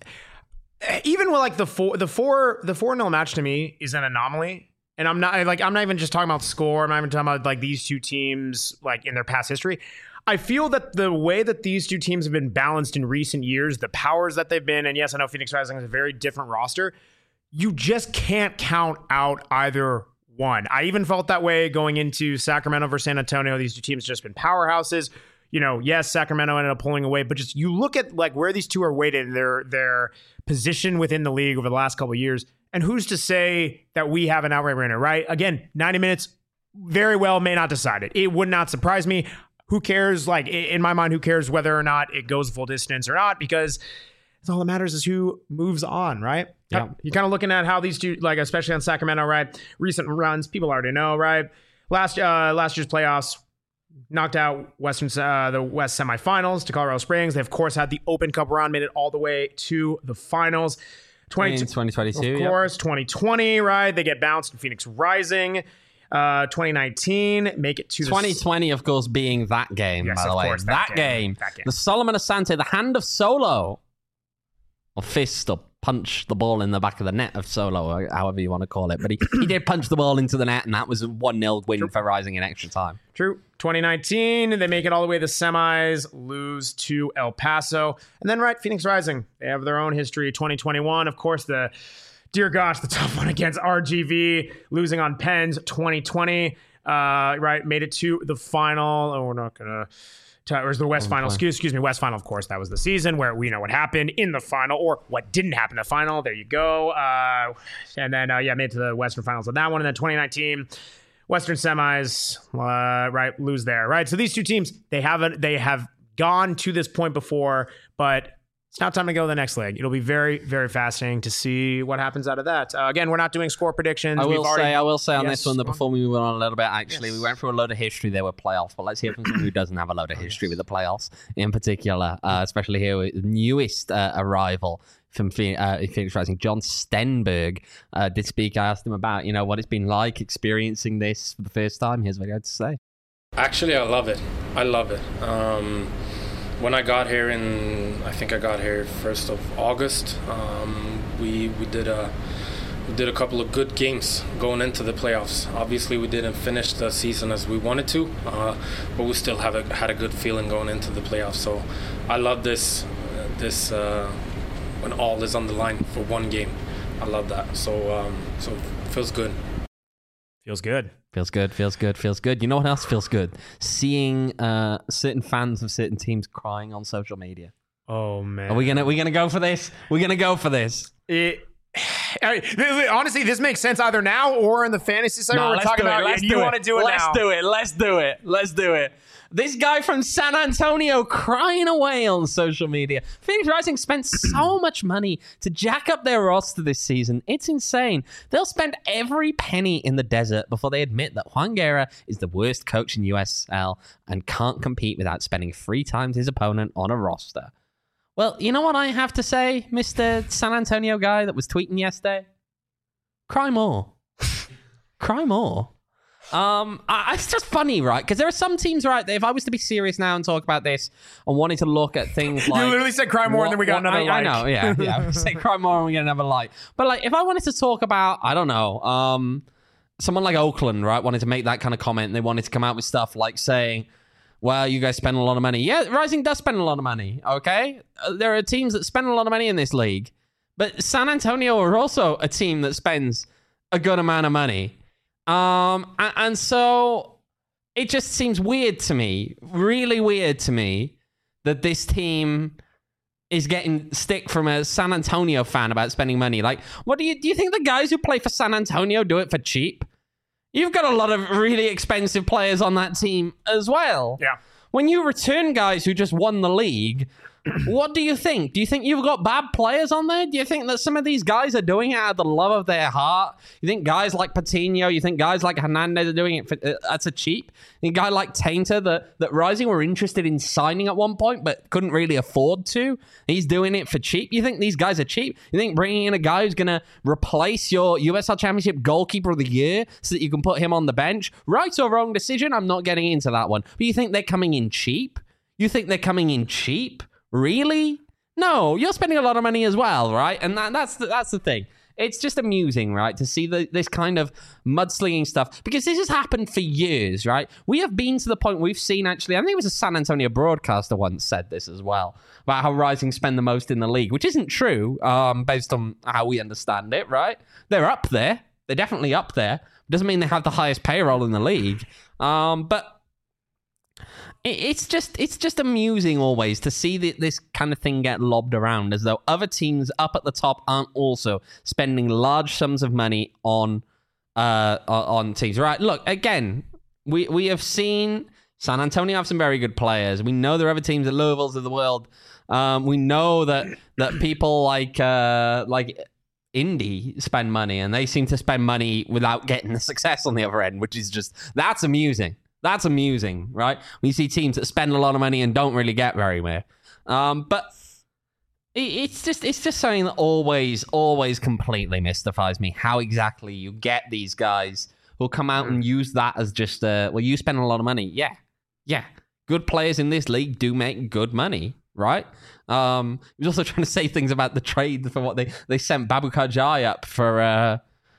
it, even with like the four, the four, the four nil match to me is an anomaly. And I'm not like I'm not even just talking about score. I'm not even talking about like these two teams like in their past history. I feel that the way that these two teams have been balanced in recent years, the powers that they've been, and yes, I know Phoenix Rising is a very different roster. You just can't count out either one. I even felt that way going into Sacramento versus San Antonio. These two teams have just been powerhouses. You know, yes, Sacramento ended up pulling away, but just you look at like where these two are weighted in their their position within the league over the last couple of years. And who's to say that we have an outright winner, right? Again, ninety minutes very well may not decide it. It would not surprise me. Who cares? Like, in my mind, who cares whether or not it goes full distance or not? Because it's all that matters is who moves on, right? Yeah. You're kind of looking at how these two, like, especially on Sacramento, right? Recent runs, people already know, right? Last uh, last year's playoffs, knocked out Western uh, the West semifinals to Colorado Springs. They, of course, had the Open Cup run, made it all the way to the finals. twenty twenty-two, of course, yep. twenty twenty, right? They get bounced in Phoenix Rising. Uh, twenty nineteen, make it to twenty twenty, the... of course, being that game, yes, by the way. Course, that, that, game. game. that game. The Solomon Asante, the hand of Solo, or fist, or punch the ball in the back of the net of Solo, or however you want to call it. But he, he did punch the ball into the net, and that was a one nil win True. for Rising in extra time. True. twenty nineteen, they make it all the way to the semis, lose to El Paso. And then, right, Phoenix Rising, they have their own history. twenty twenty-one, of course, the, dear gosh, the tough one against R G V, losing on Pens. Twenty twenty, uh, right, made it to the final. Oh, we're not going to... Or was the West oh, Final, excuse, excuse me, West Final, of course, that was the season where we know what happened in the final or what didn't happen in the final. There you go. Uh, and then, uh, yeah, made it to the Western Finals of that one. And then twenty nineteen, Western semis, uh, right, lose there, right? So these two teams, they haven't, they have gone to this point before, but it's now time to go to the next leg. It'll be very, very fascinating to see what happens out of that. Uh, again, we're not doing score predictions. I will We've already, say, I will say on yes, this one that before we move on a little bit, actually, yes. we went through a load of history there with playoffs, but let's hear from someone who doesn't have a load of history with the playoffs in particular, uh, especially here with the newest uh, arrival from uh, Phoenix Rising, John Stenberg, uh, did speak. I asked him about, you know, what it's been like experiencing this for the first time. Here's what he had to say. Actually, I love it. I love it. Um, when I got here in, I think I got here first of August. Um, we we did a we did a couple of good games going into the playoffs. Obviously, we didn't finish the season as we wanted to, uh, but we still have a, had a good feeling going into the playoffs. So, I love this uh, this uh, when all is on the line for one game. I love that. So um, so it feels good. Feels good. Feels good, feels good, feels good. You know what else feels good? Seeing uh, certain fans of certain teams crying on social media. Oh, man. Are we gonna we gonna go for this? We're gonna go for this. It, I mean, honestly, this makes sense either now or in the fantasy segment no, we're talking about. Let's you do want it. to do it let's now. Let's do it. Let's do it. Let's do it. This guy from San Antonio crying away on social media. Phoenix Rising spent so much money to jack up their roster this season. It's insane. They'll spend every penny in the desert before they admit that Juan Guerra is the worst coach in U S L and can't compete without spending three times his opponent on a roster. Well, you know what I have to say, Mister San Antonio guy that was tweeting yesterday? Cry more. Cry more. Um, I, it's just funny, right? Because there are some teams, right, that if I was to be serious now and talk about this and wanted to look at things like... You literally said cry more what, and then we got what, another I, like. I know, yeah. yeah. We say cry more and we get another like. But like, if I wanted to talk about, I don't know, um, someone like Oakland, right, wanted to make that kind of comment and they wanted to come out with stuff like saying, well, you guys spend a lot of money. Yeah, Rising does spend a lot of money, okay? Uh, there are teams that spend a lot of money in this league. But San Antonio are also a team that spends a good amount of money. Um, and, and so it just seems weird to me, really weird to me, that this team is getting stick from a San Antonio fan about spending money. Like, what do you do? You think the guys who play for San Antonio do it for cheap? You've got a lot of really expensive players on that team as well. Yeah. When you return guys who just won the league, what do you think? Do you think you've got bad players on there? Do you think that some of these guys are doing it out of the love of their heart? You think guys like Patino, you think guys like Hernandez are doing it for, uh, that's a cheap? You think a guy like Tainter that, that Rising were interested in signing at one point but couldn't really afford to? He's doing it for cheap? You think these guys are cheap? You think bringing in a guy who's going to replace your U S L Championship goalkeeper of the year so that you can put him on the bench? Right or wrong decision? I'm not getting into that one. But you think they're coming in cheap? You think they're coming in cheap? Really? No, you're spending a lot of money as well, right? And that, that's the, that's the thing. It's just amusing, right, to see the, this kind of mudslinging stuff because this has happened for years, right? We have been to the point we've seen actually, I think it was a San Antonio broadcaster once said this as well, about how Rising spend the most in the league, which isn't true um, based on how we understand it, right? They're up there. They're definitely up there. Doesn't mean they have the highest payroll in the league. Um, but It's just it's just amusing always to see the, this kind of thing get lobbed around as though other teams up at the top aren't also spending large sums of money on uh, on teams. Right? Look, again, we we have seen San Antonio have some very good players. We know there are other teams at levels of the world. Um, we know that that people like uh, like Indy spend money, and they seem to spend money without getting the success on the other end, which is just that's amusing. That's amusing, right? We see teams that spend a lot of money and don't really get very much. Um, but it, it's just it's just something that always, always completely mystifies me. How exactly you get these guys who'll come out and use that as just, uh, well, you spend a lot of money. Yeah, yeah. Good players in this league do make good money, right? Um, he was also trying to say things about the trade for what they, they sent Babukar Jai up for... Uh,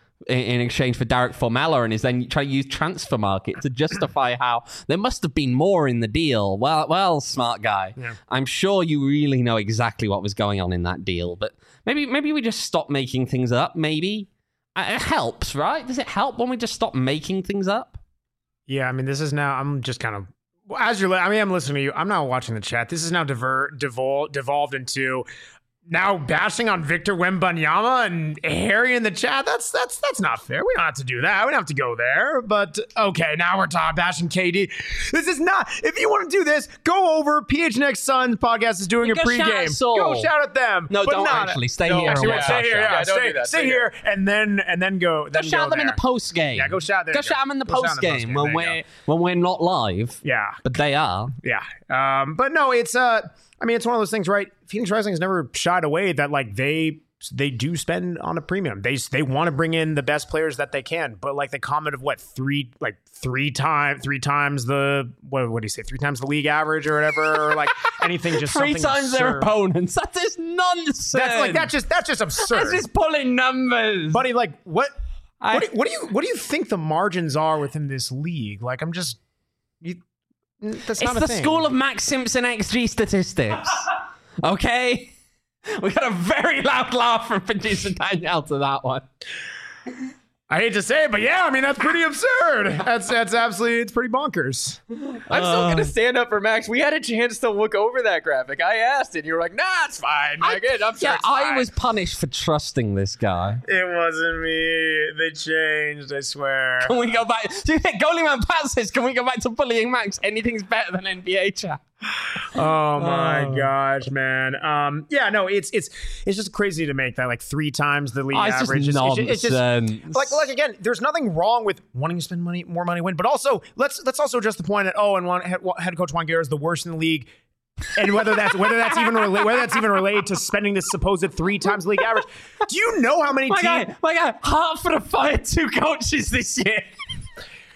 in exchange for Derek Formella, and is then trying to use transfer market to justify how there must have been more in the deal. Well, well, smart guy. Yeah. I'm sure you really know exactly what was going on in that deal, but maybe maybe we just stop making things up. Maybe it helps, right? Does it help when we just stop making things up? Yeah, I mean, this is now. I'm just kind of as you're. I mean, I'm listening to you. I'm not watching the chat. This is now diver, devol, devolved into. Now bashing on Victor Wembanyama and Harry in the chat. That's that's that's not fair. We don't have to do that. We don't have to go there. But okay, now we're talking bashing K D. This is not. If you want to do this, go over. P H N X Suns podcast is doing a go pregame. Shout go shout at them. No, but don't not, actually stay no, here. Actually, and stay here. Yeah, yeah, stay, do that. stay Stay here, and then and then go. Then Go shout go them there. in the post game. Yeah, go shout. There go go. shout them in the go post game when we're go. when we're not live. Yeah, but they are. Yeah, um, but no, it's uh, I mean, it's one of those things, right? Phoenix Rising has never shied away that like they. They do spend on a premium. They they want to bring in the best players that they can, but like the comment of what three like three times three times the what what do you say three times the league average or whatever or like anything just three something times absurd. their opponents. That is nonsense. That's like that just that's just absurd. That's just pulling numbers, buddy. Like what I, what, do, what do you what do you think the margins are within this league? Like I'm just you. That's not it's a the thing. school of Max Simpson X G statistics. Okay. We got a very loud laugh from producer Danielle to that one. I hate to say it, but yeah, I mean, that's pretty absurd. That's that's absolutely, it's pretty bonkers. I'm still going to stand up for Max. We had a chance to look over that graphic. I asked it. You were like, nah, it's fine. I, Like, it, I'm sure yeah, it's fine. I was punished for trusting this guy. It wasn't me. They changed, I swear. Can we go back? Do you think Goalie Pat says, can we go back to bullying Max? Anything's better than N B A chat. Oh my Oh. gosh, man. Um, yeah, no, it's it's it's just crazy to make that like three times the league Oh, it's just average. It's, it's, it's just nonsense. like like again, there's nothing wrong with wanting to spend money, more money, win, but also let's let's also address the point that oh, and one head, head coach Juan Guerra is the worst in the league. And whether that's whether that's even rela- whether that's even related to spending this supposed three times league average, do you know how many My teams? guy, my guy, Hartford have fired two coaches this year.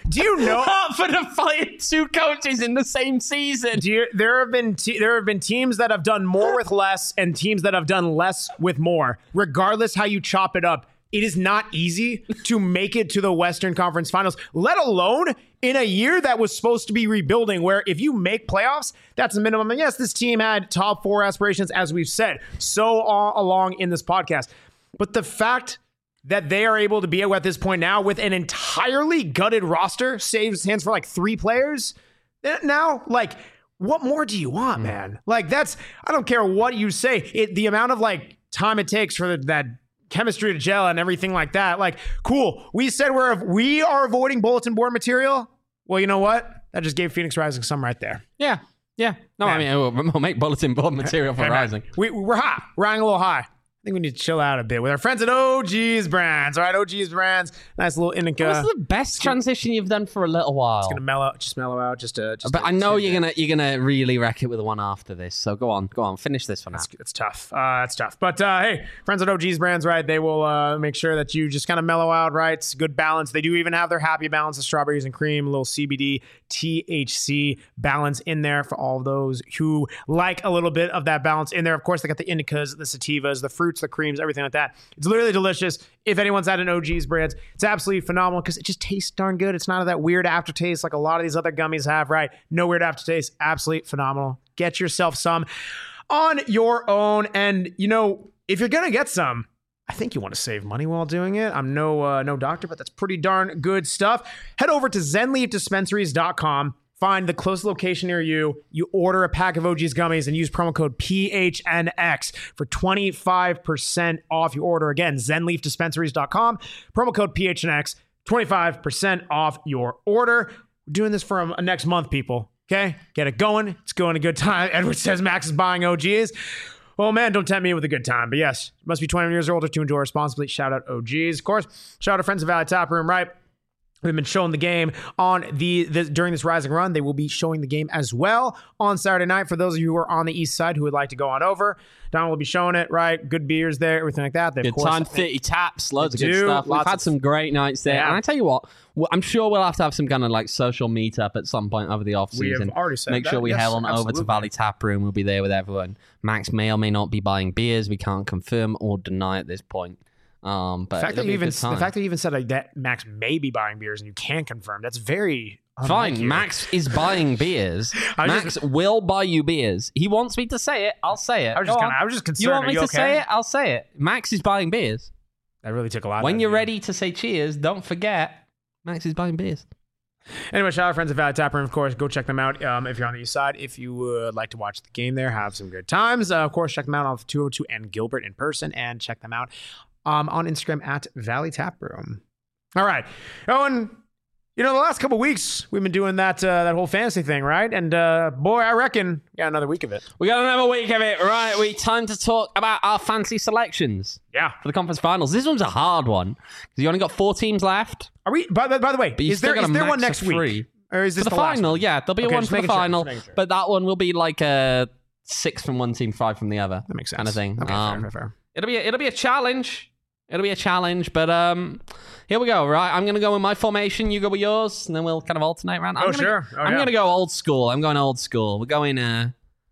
Do you know? For the fighting two coaches in the same season. Do you, there have been te- there have been teams that have done more with less and teams that have done less with more. Regardless how you chop it up, it is not easy to make it to the Western Conference Finals, let alone in a year that was supposed to be rebuilding, where if you make playoffs, that's the minimum. And yes, this team had top four aspirations, as we've said so all along in this podcast. But the fact that they are able to be at this point now with an entirely gutted roster, saves hands for like three players now, like, what more do you want, man? Like, that's, I don't care what you say. It, the amount of like time it takes for the, that chemistry to gel and everything like that. Like, cool. We said we're, we are avoiding bulletin board material. Well, you know what? That just gave Phoenix Rising some right there. Yeah. Yeah. No, Yeah. I mean, we'll, we'll make bulletin board material for Hey, man, Rising. We, we're hot. We're riding a little high. I think we need to chill out a bit with our friends at O G's Brands. All right, O G's Brands. Nice little indica. What's the best transition you've done for a little while? It's gonna mellow, just mellow out. Just, uh, just But a I know tidbit. you're gonna you're gonna really wreck it with the one after this. So go on, go on, finish this one out. It's, it's tough. Uh, it's tough. But uh, hey, friends at O G's Brands, right? They will uh, make sure that you just kind of mellow out, right? It's good balance. They do even have their happy balance of strawberries and cream, a little C B D, T H C balance in there for all those who like a little bit of that balance in there. Of course, they got the indicas, the sativas, the fruits, the creams, everything like that. It's literally delicious. If anyone's at an O G's Brands, it's absolutely phenomenal because it just tastes darn good. It's not that weird aftertaste like a lot of these other gummies have, right? No weird aftertaste. Absolutely phenomenal. Get yourself some on your own. And, you know, if you're going to get some, I think you want to save money while doing it. I'm no uh, no doctor, but that's pretty darn good stuff. Head over to zen leaf dispensaries dot com. Find the closest location near you. You order a pack of O G's gummies and use promo code P H N X for twenty-five percent off your order. Again, zen leaf dispensaries dot com. Promo code P H N X, twenty-five percent off your order. We're doing this for a next month, people. Okay? Get it going. It's going a good time. Edward says Max is buying O G's. Oh man, don't tempt me with a good time. But yes, must be twenty-one years or older to enjoy responsibly. Shout out O G's. Of course, shout out to friends of Valley Tap Room, right? We've been showing the game on the, the during this Rising run. They will be showing the game as well on Saturday night. For those of you who are on the east side who would like to go on over, Don will be showing it, right? Good beers there, everything like that. They, of Good course, time, thirty taps, loads of They good do, stuff. We've lots had of- some great nights there. Yeah. And I tell you what, well, I'm sure we'll have to have some kind of like social meetup at some point over the off We have season. already said Make that. sure we Yes, head on over absolutely. to Valley Tap Room. We'll be there with everyone. Max may or may not be buying beers. We can't confirm or deny at this point. Um, but The fact, it'll that be you a even, good time. the fact that you even said like that Max may be buying beers and you can confirm, that's very unlike Fine, you. Max is buying beers. I was Max just- will buy you beers. He wants me to say it. I'll say it. I was just Go kinda, on. I was just concerned. You want Are me you to okay? say it? I'll say it. Max is buying beers. That really took a lot. When out you're of you. ready to say cheers, don't forget Max is buying beers. Anyway, shout out friends at Valley Tap Room, of course. Go check them out um, if you're on the east side. If you would like to watch the game there, have some good times. Uh, of course, check them out on two oh two and Gilbert in person, and check them out um, on Instagram at Valley Tap Room. All right, Owen. You know, the last couple weeks we've been doing that uh, that whole fantasy thing, right? And uh, boy, I reckon we got another week of it. We got another week of it. Right, we time to talk about our fancy selections Yeah. for the conference finals. This one's a hard one because you only got four teams left. Are we? By, the- by the way, you is still there got is a there max one of next week, three. or is this For the, the, last final, one? yeah, there'll be Okay, one just for the making sure, just final, making sure. but that one will be like a six from one team, five from the other. That makes sense. Kind of thing. Okay, Um, fair, fair, fair. It'll be a, it'll be a challenge. It'll be a challenge, but um, here we go. Right, I'm gonna go with my formation. You go with yours, and then we'll kind of alternate around. I'm Oh, gonna, sure. Oh, I'm yeah. gonna go old school. I'm going old school. We're going uh,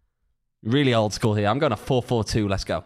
really old school here. I'm going a four four two. Let's go.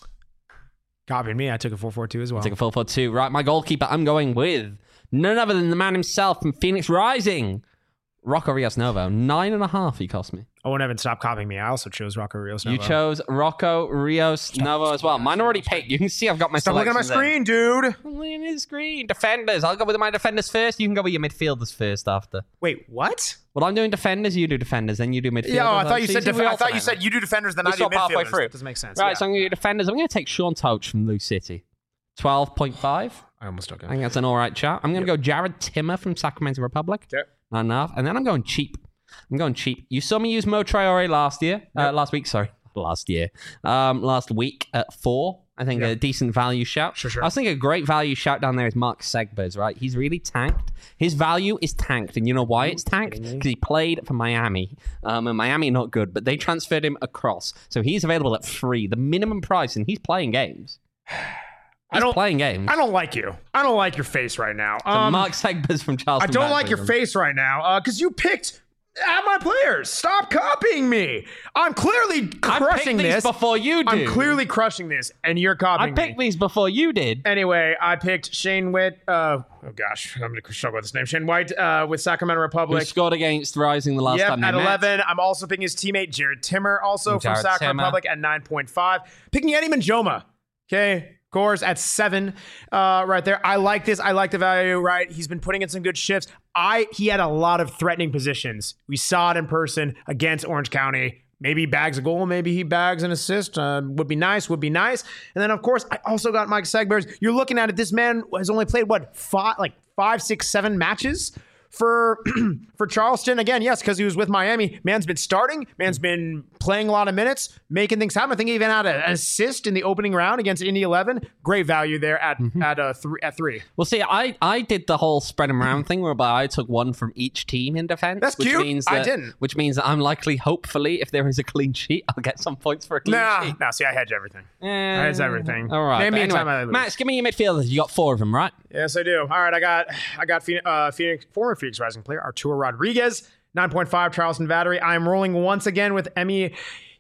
Copying me. I took a four four two as well. Take a four four two. Right, my goalkeeper. I'm going with none other than the man himself from Phoenix Rising, Rocco Rios Novo. Nine and a half. He cost me. Owen Evans, stop copying me. I also chose Rocco Rios. You Novo. chose Rocco Rios Novo as well. Mine already picked. You can see I've got my Stop looking at my selections screen, dude. there. I'm looking at the screen. Defenders. I'll go with my defenders first. You can go with your midfielders first after. Wait, what? Well, I'm doing defenders. You do defenders. Then you do midfielders. Yeah, oh, I thought you So said see, def- we I thought you alternate said that. you do defenders, then We I do swap halfway midfielders. through. That doesn't make sense. Right, yeah. so I'm going to do defenders. I'm going to take Sean Touch from Lou City. twelve point five. I almost took I it. think that's an all right chat. I'm going to go Jared Timmer from Sacramento Republic. Okay. Not enough. And then I'm going cheap. I'm going cheap. You saw me use Mo Traore last year. Uh, last week, sorry. Last year. Um, last week at four. I think Yeah. a decent value shout. Sure, sure. I was thinking a great value shout down there is Mark Segbers, right? He's really tanked. His value is tanked. And you know why it's tanked? Because he played for Miami. Um, and Miami not good, but they transferred him across. So he's available at free, the minimum price, and he's playing games. I don't playing games. I don't like you. I don't like your face right now. So Um, Mark Segbers from Charleston. I don't like Battery. your face right now because you picked at my players. Stop copying me. I'm clearly I crushing picked these this. before you did. I'm clearly crushing this, and you're I copying picked me. these before you did. Anyway, I picked Shane Witt. Uh, oh gosh, I'm going to struggle with this name. Shane White uh, with Sacramento Who Republic. scored against Rising the last Yep, time they at met. eleven. I'm also picking his teammate Jared Timmer, also from Jared Sacramento Timmer. Republic at nine point five. Picking Eddie Manjoma. Okay. Gores at seven, uh, right there. I like this. I like the value, right? He's been putting in some good shifts. I he had a lot of threatening positions. We saw it in person against Orange County. Maybe he bags a goal. Maybe he bags an assist. Uh, would be nice. Would be nice. And then, of course, I also got Mike Segbers. You're looking at it. This man has only played, what, five, like five, six, seven matches for for Charleston. Again, yes, because he was with Miami. Man's been starting. Man's been playing a lot of minutes, making things happen. I think he even had an assist in the opening round against Indy eleven. Great value there at Mm-hmm. at uh, three at three. Well, see, I, I did the whole spread them around thing whereby I took one from each team in defense. That's which cute. Means I that, didn't. Which means that I'm likely, hopefully, if there is a clean sheet, I'll get some points for a clean Nah, sheet. nah. See, I hedge everything. Eh, I hedge everything. All right. Name but me a anyway, time I lose. Max, give me your midfielders. You got four of them, right? Yes, I do. All right, I got I got Phoenix, uh, Phoenix former Phoenix Rising player Arturo Rodriguez, nine point five Charleston Battery. I am rolling once again with Emi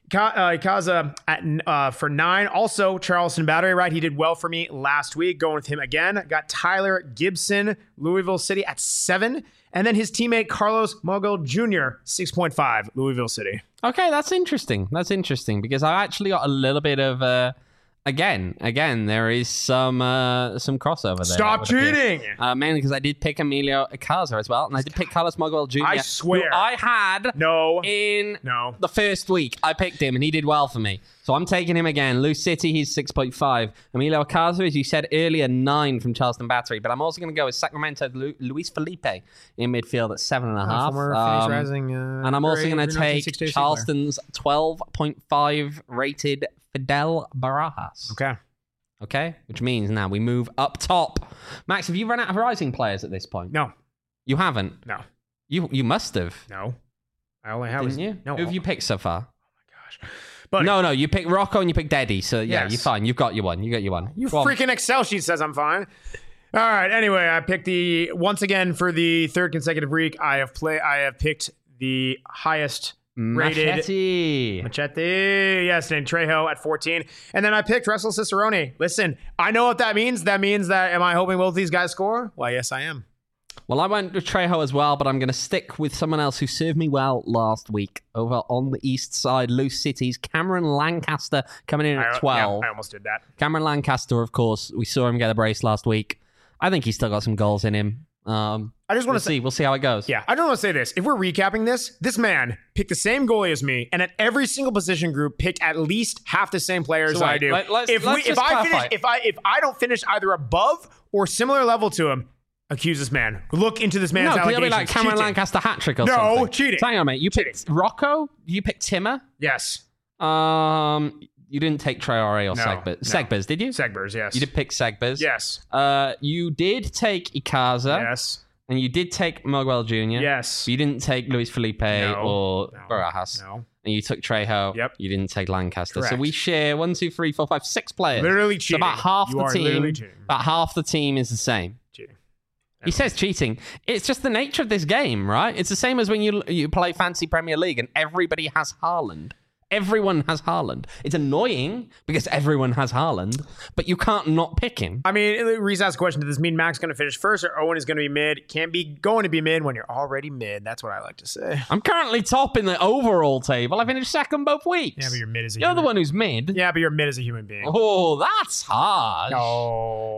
Ikaza at uh, for nine. Also Charleston Battery, right? He did well for me last week. Going with him again. Got Tyler Gibson, Louisville City at seven, and then his teammate Carlos Mogul Junior six point five Louisville City. Okay, that's interesting. That's interesting because I actually got a little bit of uh again, again, there is some uh some crossover there. Stop I would appear. cheating. Uh, mainly because I did pick Emilio Icaza as well, and I did pick Carlos Mogul Junior I swear. who I had No. in No. the first week. I picked him, and he did well for me. So I'm taking him again. Lou City, he's six point five. Emilio Icaza, as you said earlier, nine from Charleston Battery. But I'm also going to go with Sacramento Lu- Luis Felipe in midfield at seven and a half. Former Um, Phoenix Rising, uh, and I'm also great going to nineteen take sixty-eight player. Charleston's twelve point five rated Fidel Barajas. Okay. Okay? Which means now we move up top. Max, have you run out of Rising players at this point? No. You haven't? No. You you must have. No. I only have. Didn't you? No. Who have you picked so far? Gosh. But No, no, you picked Rocco and you picked Eddie. So yeah, Yes. you're fine. You've got your one. You got your one. You Go on. freaking Excel sheet says I'm fine. All right. Anyway, I picked the once again for the third consecutive week. I have play. I have picked the highest rated Machete. Machete. Yes, named Trejo at fourteen, and then I picked Russell Cicerone. Listen, I know what that means. That means that am I hoping both these guys score? Well, yes, I am. Well, I went with Trejo as well, but I'm going to stick with someone else who served me well last week over on the east side, Loose Cities. Cameron Lancaster coming in at I, twelve. yeah, I almost did that. Cameron Lancaster, of course, we saw him get a brace last week. I think he's still got some goals in him. Um, I just want we'll to say. see. We'll see how it goes. Yeah, I don't want to say this. If we're recapping this, this man picked the same goalie as me, and at every single position group picked at least half the same players So I wait, do. let- let's- if let's we, if just I clarify. finish, if I if I don't finish either above or similar level to him, accuse this man. Look into this man's No, it'll allegations. be like Cameron Cheating. Lancaster hat trick or No, something. cheating. So hang on, mate. You picked Rocco. You picked Timmer. Yes, Um, you didn't take Traore or No, Segbers. no. Segbers, did you? Segbers. Yes, You did pick Segbers. Yes, Uh, you did take Icaza. yes, And you did take Miguel Junior yes. But you didn't take Luis Felipe No. or No. Barajas. No, And you took Trejo. Yep. You didn't take Lancaster. So Correct. we share one, two, three, four, five, six players. literally So cheating. about half you the are team. literally cheating. About half the team is the same. Cheating. He says cheating. It's just the nature of this game, right? It's the same as when you you play Fancy Premier League and everybody has Haaland. Everyone has Haaland. It's annoying because everyone has Haaland, but you can't not pick him. I mean, Reese asked a question: does this mean Mac's going to finish first, or Owen is going to be mid? Can't be going to be mid when you're already mid. That's what I like to say. I'm currently top in the overall table. I finished second both weeks. Yeah, but you're mid as a You're human. the one who's mid. Yeah, but you're mid as a human being. Oh, that's harsh. Oh.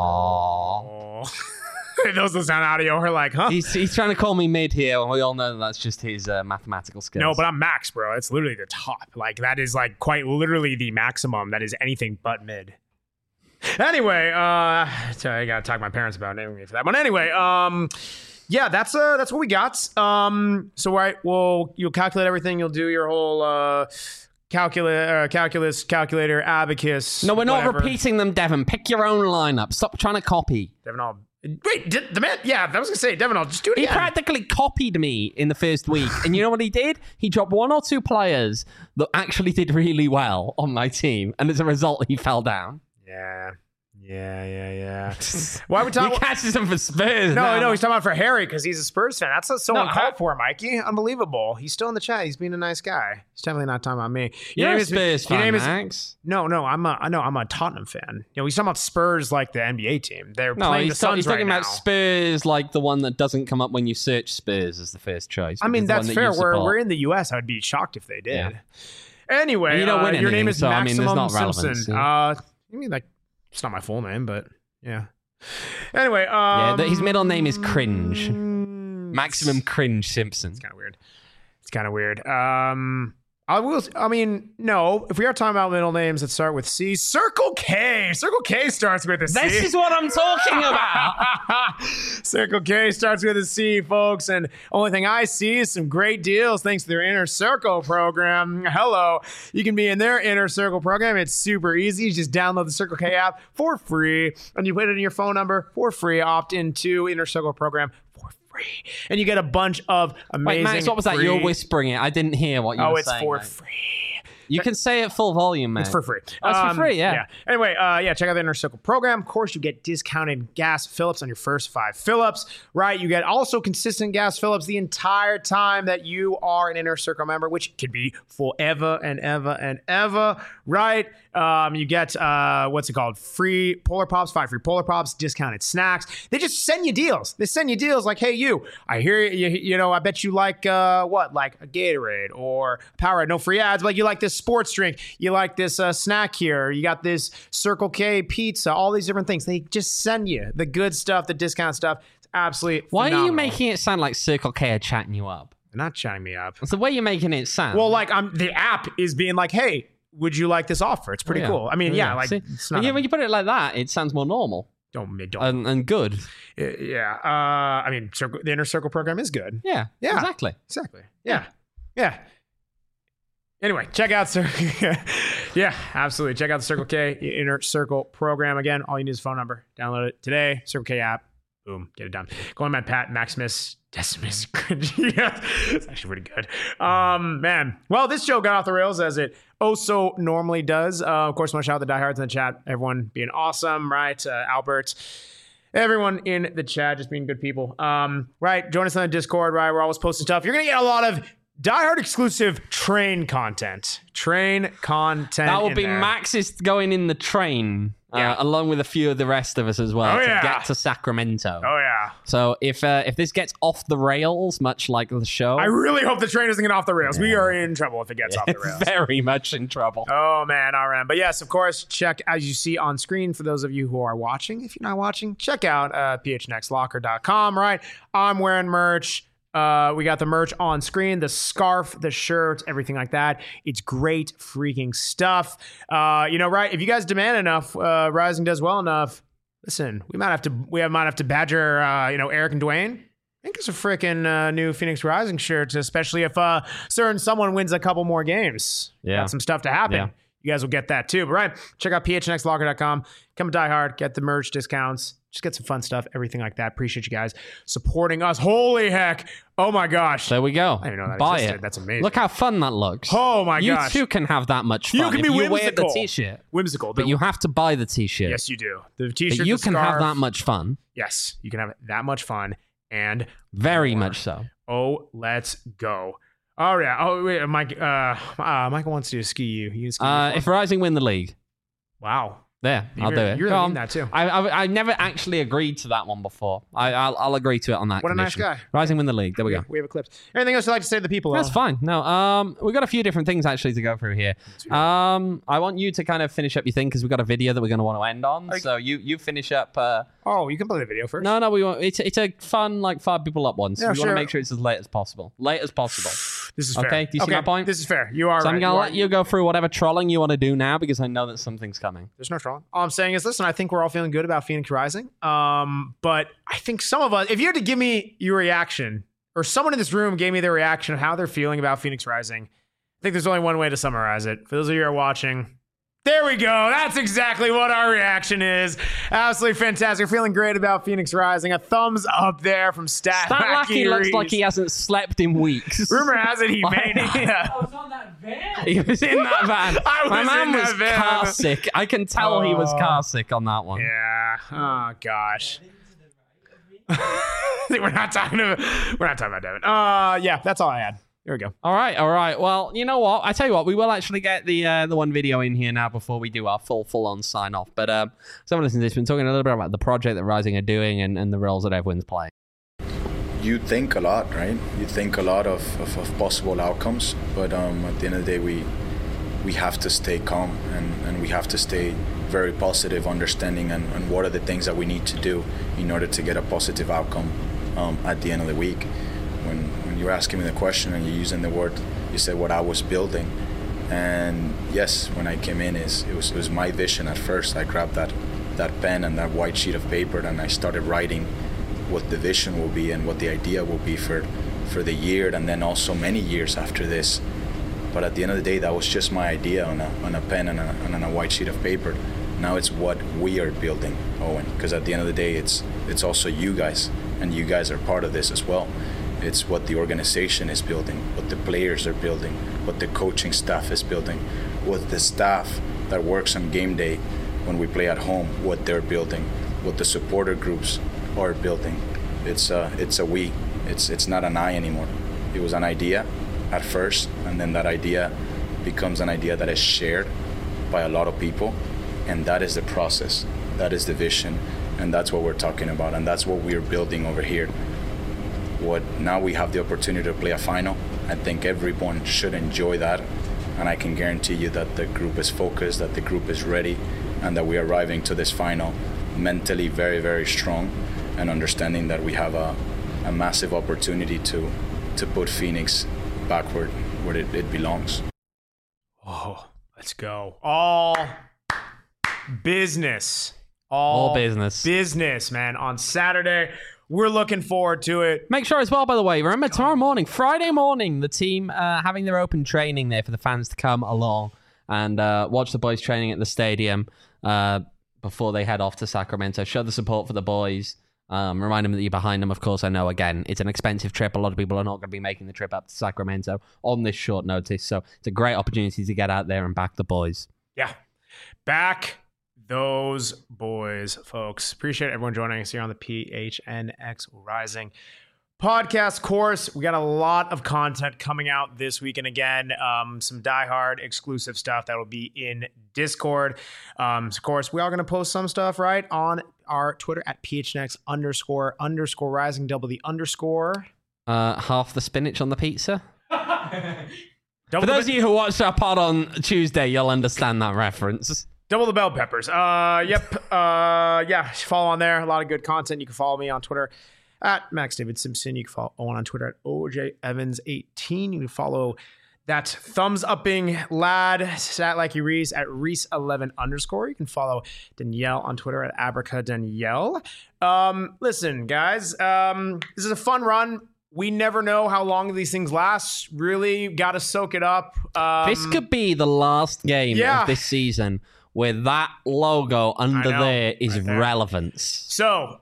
Oh. Those that sound audio are like, huh? He's, he's trying to call me mid here, and we all know that that's just his uh, mathematical skills. No, but I'm max, bro. It's literally the top. Like, that is like quite literally the maximum. That is anything but mid. Anyway, uh, sorry, I gotta talk to my parents about naming me for that one. Anyway, um, yeah, that's uh, that's what we got. Um, so right, well, you'll calculate everything. You'll do your whole uh, calculus, uh, calculus, calculator, abacus. No, we're not whatever. repeating them, Devon. Pick your own lineup. Stop trying to copy. Devin, I'll wait. Did, the man, yeah, I was gonna say, Devin, I'll just do it He again. practically copied me in the first week. And you know what he did? He dropped one or two players that actually did really well on my team. And as a result, he fell down. Yeah, Yeah, yeah, yeah. Why are we talking? He catches him for Spurs. No, now. no, he's talking about for Harry because he's a Spurs fan. That's so No, uncalled I- for, Mikey. Unbelievable. He's still in the chat. He's being a nice guy. He's definitely not talking about me. Your You're name a is- Spurs your fan, name is- Max. No, no, I'm a, I know I'm a Tottenham fan. You know, he's talking about Spurs like the N B A team. They're No, playing he's, the ta- Suns he's right talking now. about Spurs, like the one that doesn't come up when you search Spurs as the first choice. I mean, which is the that's one that fair. you We're, support. we're in the U S. I would be shocked if they did. Yeah. Anyway, And you don't uh, win your name anything, is so, I mean, there's Maximum not relevance, Simpson. yeah. Uh, I mean, like, it's not my full name, but yeah. Anyway, um, Yeah, th- his middle name is Cringe. Maximum Cringe Simpson. It's kind of weird. It's kind of weird. Um, I will. I mean, no. If we are talking about middle names that start with C, Circle K. Circle K starts with a C. This is what I'm talking about. Circle K starts with a C, folks. And only thing I see is some great deals thanks to their Inner Circle program. Hello. You can be in their Inner Circle program. It's super easy. You just download the Circle K app for free, and you put it in your phone number for free. Opt into Inner Circle program for free. And you get a bunch of amazing. Wait, Max, what was that? free- You're whispering it. I didn't hear what you Oh, were it's saying. for mate. free. You can say it full volume, man. It's for free. Oh, it's for free, yeah. yeah. Anyway, uh, yeah, check out the Inner Circle program. Of course, you get discounted gas fill-ups on your first five fill-ups, right? You get also consistent gas fill-ups the entire time that you are an Inner Circle member, which could be forever and ever and ever, right? Um, you get, uh, what's it called? Free Polar Pops, five free Polar Pops, discounted snacks. They just send you deals. They send you deals like, hey, you, I hear you, you, you know, I bet you like, uh, what? Like a Gatorade or Powerade, no free ads, but like you like this sports drink. You like this uh, snack here. You got this Circle K pizza, all these different things. They just send you the good stuff, the discount stuff. It's absolutely Why phenomenal. are you making it sound like Circle K are chatting you up? They're not chatting me up. It's the way you're making it sound. Well, like I'm the app is being like, hey, would you like this offer? It's pretty Oh, yeah. cool. I mean, Oh, yeah, like See? it's not. yeah, a- when you put it like that, it sounds more normal don't don't. and, and good. yeah. Uh, I mean, circle, the Inner Circle program is good. Yeah, Yeah. exactly. Exactly. Yeah. Yeah. Anyway, check out Circle. yeah, absolutely. Check out the Circle K Inner Circle program. Again, all you need is a phone number. Download it today. Circle K app. Boom, get it done. Going by Pat Maximus Decimus Cringe. Yeah, it's actually pretty good. Um, man. Well, this show got off the rails as it oh so normally does. Uh, of course, I want to shout out the diehards in the chat. Everyone being awesome, right? Uh, Albert. Everyone in the chat just being good people. Um, right. Join us on the Discord, right? We're always posting stuff. You're gonna get a lot of Die Hard exclusive train content. Train content. That will in be there. Max's going in the train, uh, Yeah. along with a few of the rest of us as well, Oh, to yeah. get to Sacramento. Oh yeah. So if uh, if this gets off the rails, much like the show, I really hope the train doesn't get off the rails. We are in trouble if it gets off the rails. very much in trouble. Oh man, R M. But yes, of course, check as you see on screen for those of you who are watching. If you're not watching, check out uh, p h next locker dot com, right? I'm wearing merch. Uh, we got the merch on screen, the scarf, the shirt, everything like that. It's great freaking stuff. Uh, you know, right? If you guys demand enough, uh, Rising does well enough. Listen, we might have to, we might have to badger, uh, you know, Eric and Dwayne. I think it's a freaking uh, new Phoenix Rising shirt, especially if uh, certain someone wins a couple more games. Yeah. Got some stuff to happen. Yeah. You guys will get that too. But right, check out p h next locker dot com. Come to Die Hard, get the merch discounts. Just get some fun stuff, everything like that. Appreciate you guys supporting us. Holy heck. Oh my gosh. There we go. I didn't know that Buy existed. it. That's amazing. Look how fun that looks. Oh my you gosh. too can have that much fun. You can if be you wear the whimsical. t-shirt. Whimsical. But The- you have to buy the t-shirt. yes, you do. The But t-shirt, you the can have scarf. that much fun. Yes, you can have that much fun. And Very more. much so. Oh, let's go. Oh yeah. Oh wait, Mike. Uh, uh Michael wants to do ski you. You can ski Uh, you if Rising win the league, wow. there, I'll You're- do it. you're Go really on. mean that too. I, I I never actually agreed to that one before. I I'll, I'll agree to it on that. What a nice condition. guy. Rising win the league. There we go. We have eclipse. Anything else you'd like to say to the people? That's Al? fine. No, um, we've got a few different things actually to go through here. Um, I want you to kind of finish up your thing because we've got a video that we're going to want to end on. So you you finish up. Uh, Oh, you can play the video first. no, no, we want it's it's a fun like five people up one. So Yeah, we want sure. to make sure it's as late as possible. Late as possible. This is fair. Okay, do you see okay, my point? This is fair. You are So right. I'm going to are- let you go through whatever trolling you want to do now because I know that something's coming. There's no trolling. All I'm saying is, listen, I think we're all feeling good about Phoenix Rising. Um, but I think some of us, if you had to give me your reaction, or someone in this room gave me their reaction of how they're feeling about Phoenix Rising, I think there's only one way to summarize it. For those of you who are watching, there we go. That's exactly what our reaction is. Absolutely fantastic. We're feeling great about Phoenix Rising. A thumbs up there from Stat Stat Lackey looks Reeves. like he hasn't slept in weeks. Rumor has it he may not. I was on that van. He was in that van. I My was man in that was van. car sick. I can tell he was Oh. car sick on that one. Yeah. Oh gosh. we're not talking about. We're not talking about Devin. Uh, yeah. That's all I had. Here we go. All right, all right. Well, you know what? I tell you what, we will actually get the uh, the one video in here now before we do our full full on sign off. But um, someone listening to this, been talking a little bit about the project that Rising are doing and, and the roles that everyone's playing. You think a lot, right? You think a lot of, of, of possible outcomes, but um, at the end of the day, we we have to stay calm and, and we have to stay very positive, understanding and, and what are the things that we need to do in order to get a positive outcome um, at the end of the week. When when you're asking me the question and you're using the word, you said what I was building, and yes, when I came in, is it was it was my vision at first. I grabbed that that pen and that white sheet of paper and I started writing what the vision will be and what the idea will be for for the year and then also many years after this. But at the end of the day, that was just my idea on a on a pen and, a, and on a white sheet of paper. Now it's what we are building, Owen, because at the end of the day, it's it's also you guys, and you guys are part of this as well. It's what the organization is building, what the players are building, what the coaching staff is building, what the staff that works on game day when we play at home, what they're building, what the supporter groups are building. It's a, it's a we. It's it's not an I anymore. It was an idea at first, and then that idea becomes an idea that is shared by a lot of people, and that is the process. That is the vision, and that's what we're talking about, and that's what we're building over here. What now we have the opportunity to play a final. I think everyone should enjoy that, and I can guarantee you that the group is focused, that the group is ready, and that we're arriving to this final mentally very, very strong, and understanding that we have a, a massive opportunity to to put Phoenix backward where it, it belongs. Oh, let's go. All business. All, All business. Business, man. On Saturday. We're looking forward to it. Make sure as well, by the way, remember tomorrow morning, Friday morning, the team uh, having their open training there for the fans to come along and uh, watch the boys training at the stadium uh, before they head off to Sacramento. Show the support for the boys. Um, remind them that you're behind them. Of course, I know, again, it's an expensive trip. A lot of people are not going to be making the trip up to Sacramento on this short notice. So it's a great opportunity to get out there and back the boys. Yeah. Back those boys, folks. Appreciate everyone joining us here on the P H N X Rising podcast course. We got a lot of content coming out this week, and again, um, some diehard exclusive stuff that will be in Discord. Um, of course, we are going to post some stuff right on our Twitter at P H N X underscore underscore rising double the underscore. Uh, half the spinach on the pizza. Double For those the, of you who watched our pod on Tuesday, you'll understand that reference. double the bell peppers. Uh, yep. Uh, yeah. Follow on there. A lot of good content. You can follow me on Twitter at Max David Simpson. You can follow Owen on Twitter at O J Evans eighteen. You can follow that thumbs upping lad, sat like he Reese at Reese eleven underscore. You can follow Danielle on Twitter at Abraca Danielle. Um, listen, guys, um, this is a fun run. We never know how long these things last. Really got to soak it up. Um, This could be the last game yeah. of this season where that logo under know, there is right there. relevance. So,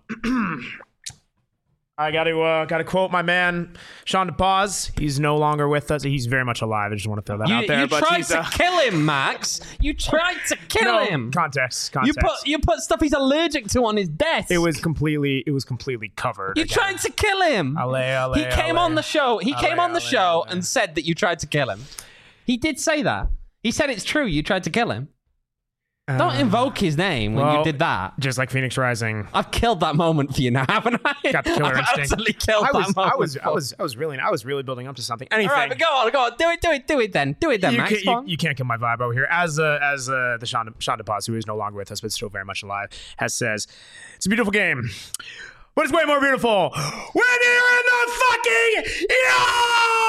I got to uh, got to quote my man Sean DePaz. He's no longer with us. He's very much alive. I just want to throw that You, out there. you but tried he's, to uh, kill him, Max. You tried to kill no, him. Context. You Context. put you put stuff he's allergic to on his desk. It was completely. It was completely covered. You again. tried to kill him. Ale, ale, he came ale. on the show. He Ale, came on the ale, show ale. and said that you tried to kill him. He did say that. He said it's true. You tried to kill him. Don't Uh, invoke his name when well, you did that. Just like Phoenix Rising. I've killed that moment for you now, haven't I? Got the killer I've instinct. absolutely killed I that was, moment. I was, I for- was, I was really, I was really building up to something. Anything. All right, but go on, go on. Do it, do it, do it then. Do it then, you, Max. can't, Go you, on. you can't kill my vibe over here. As uh, as uh, the Sean, Sean DePaz, who is no longer with us but still very much alive, has says, it's a beautiful game, but it's way more beautiful when you're in the fucking yard!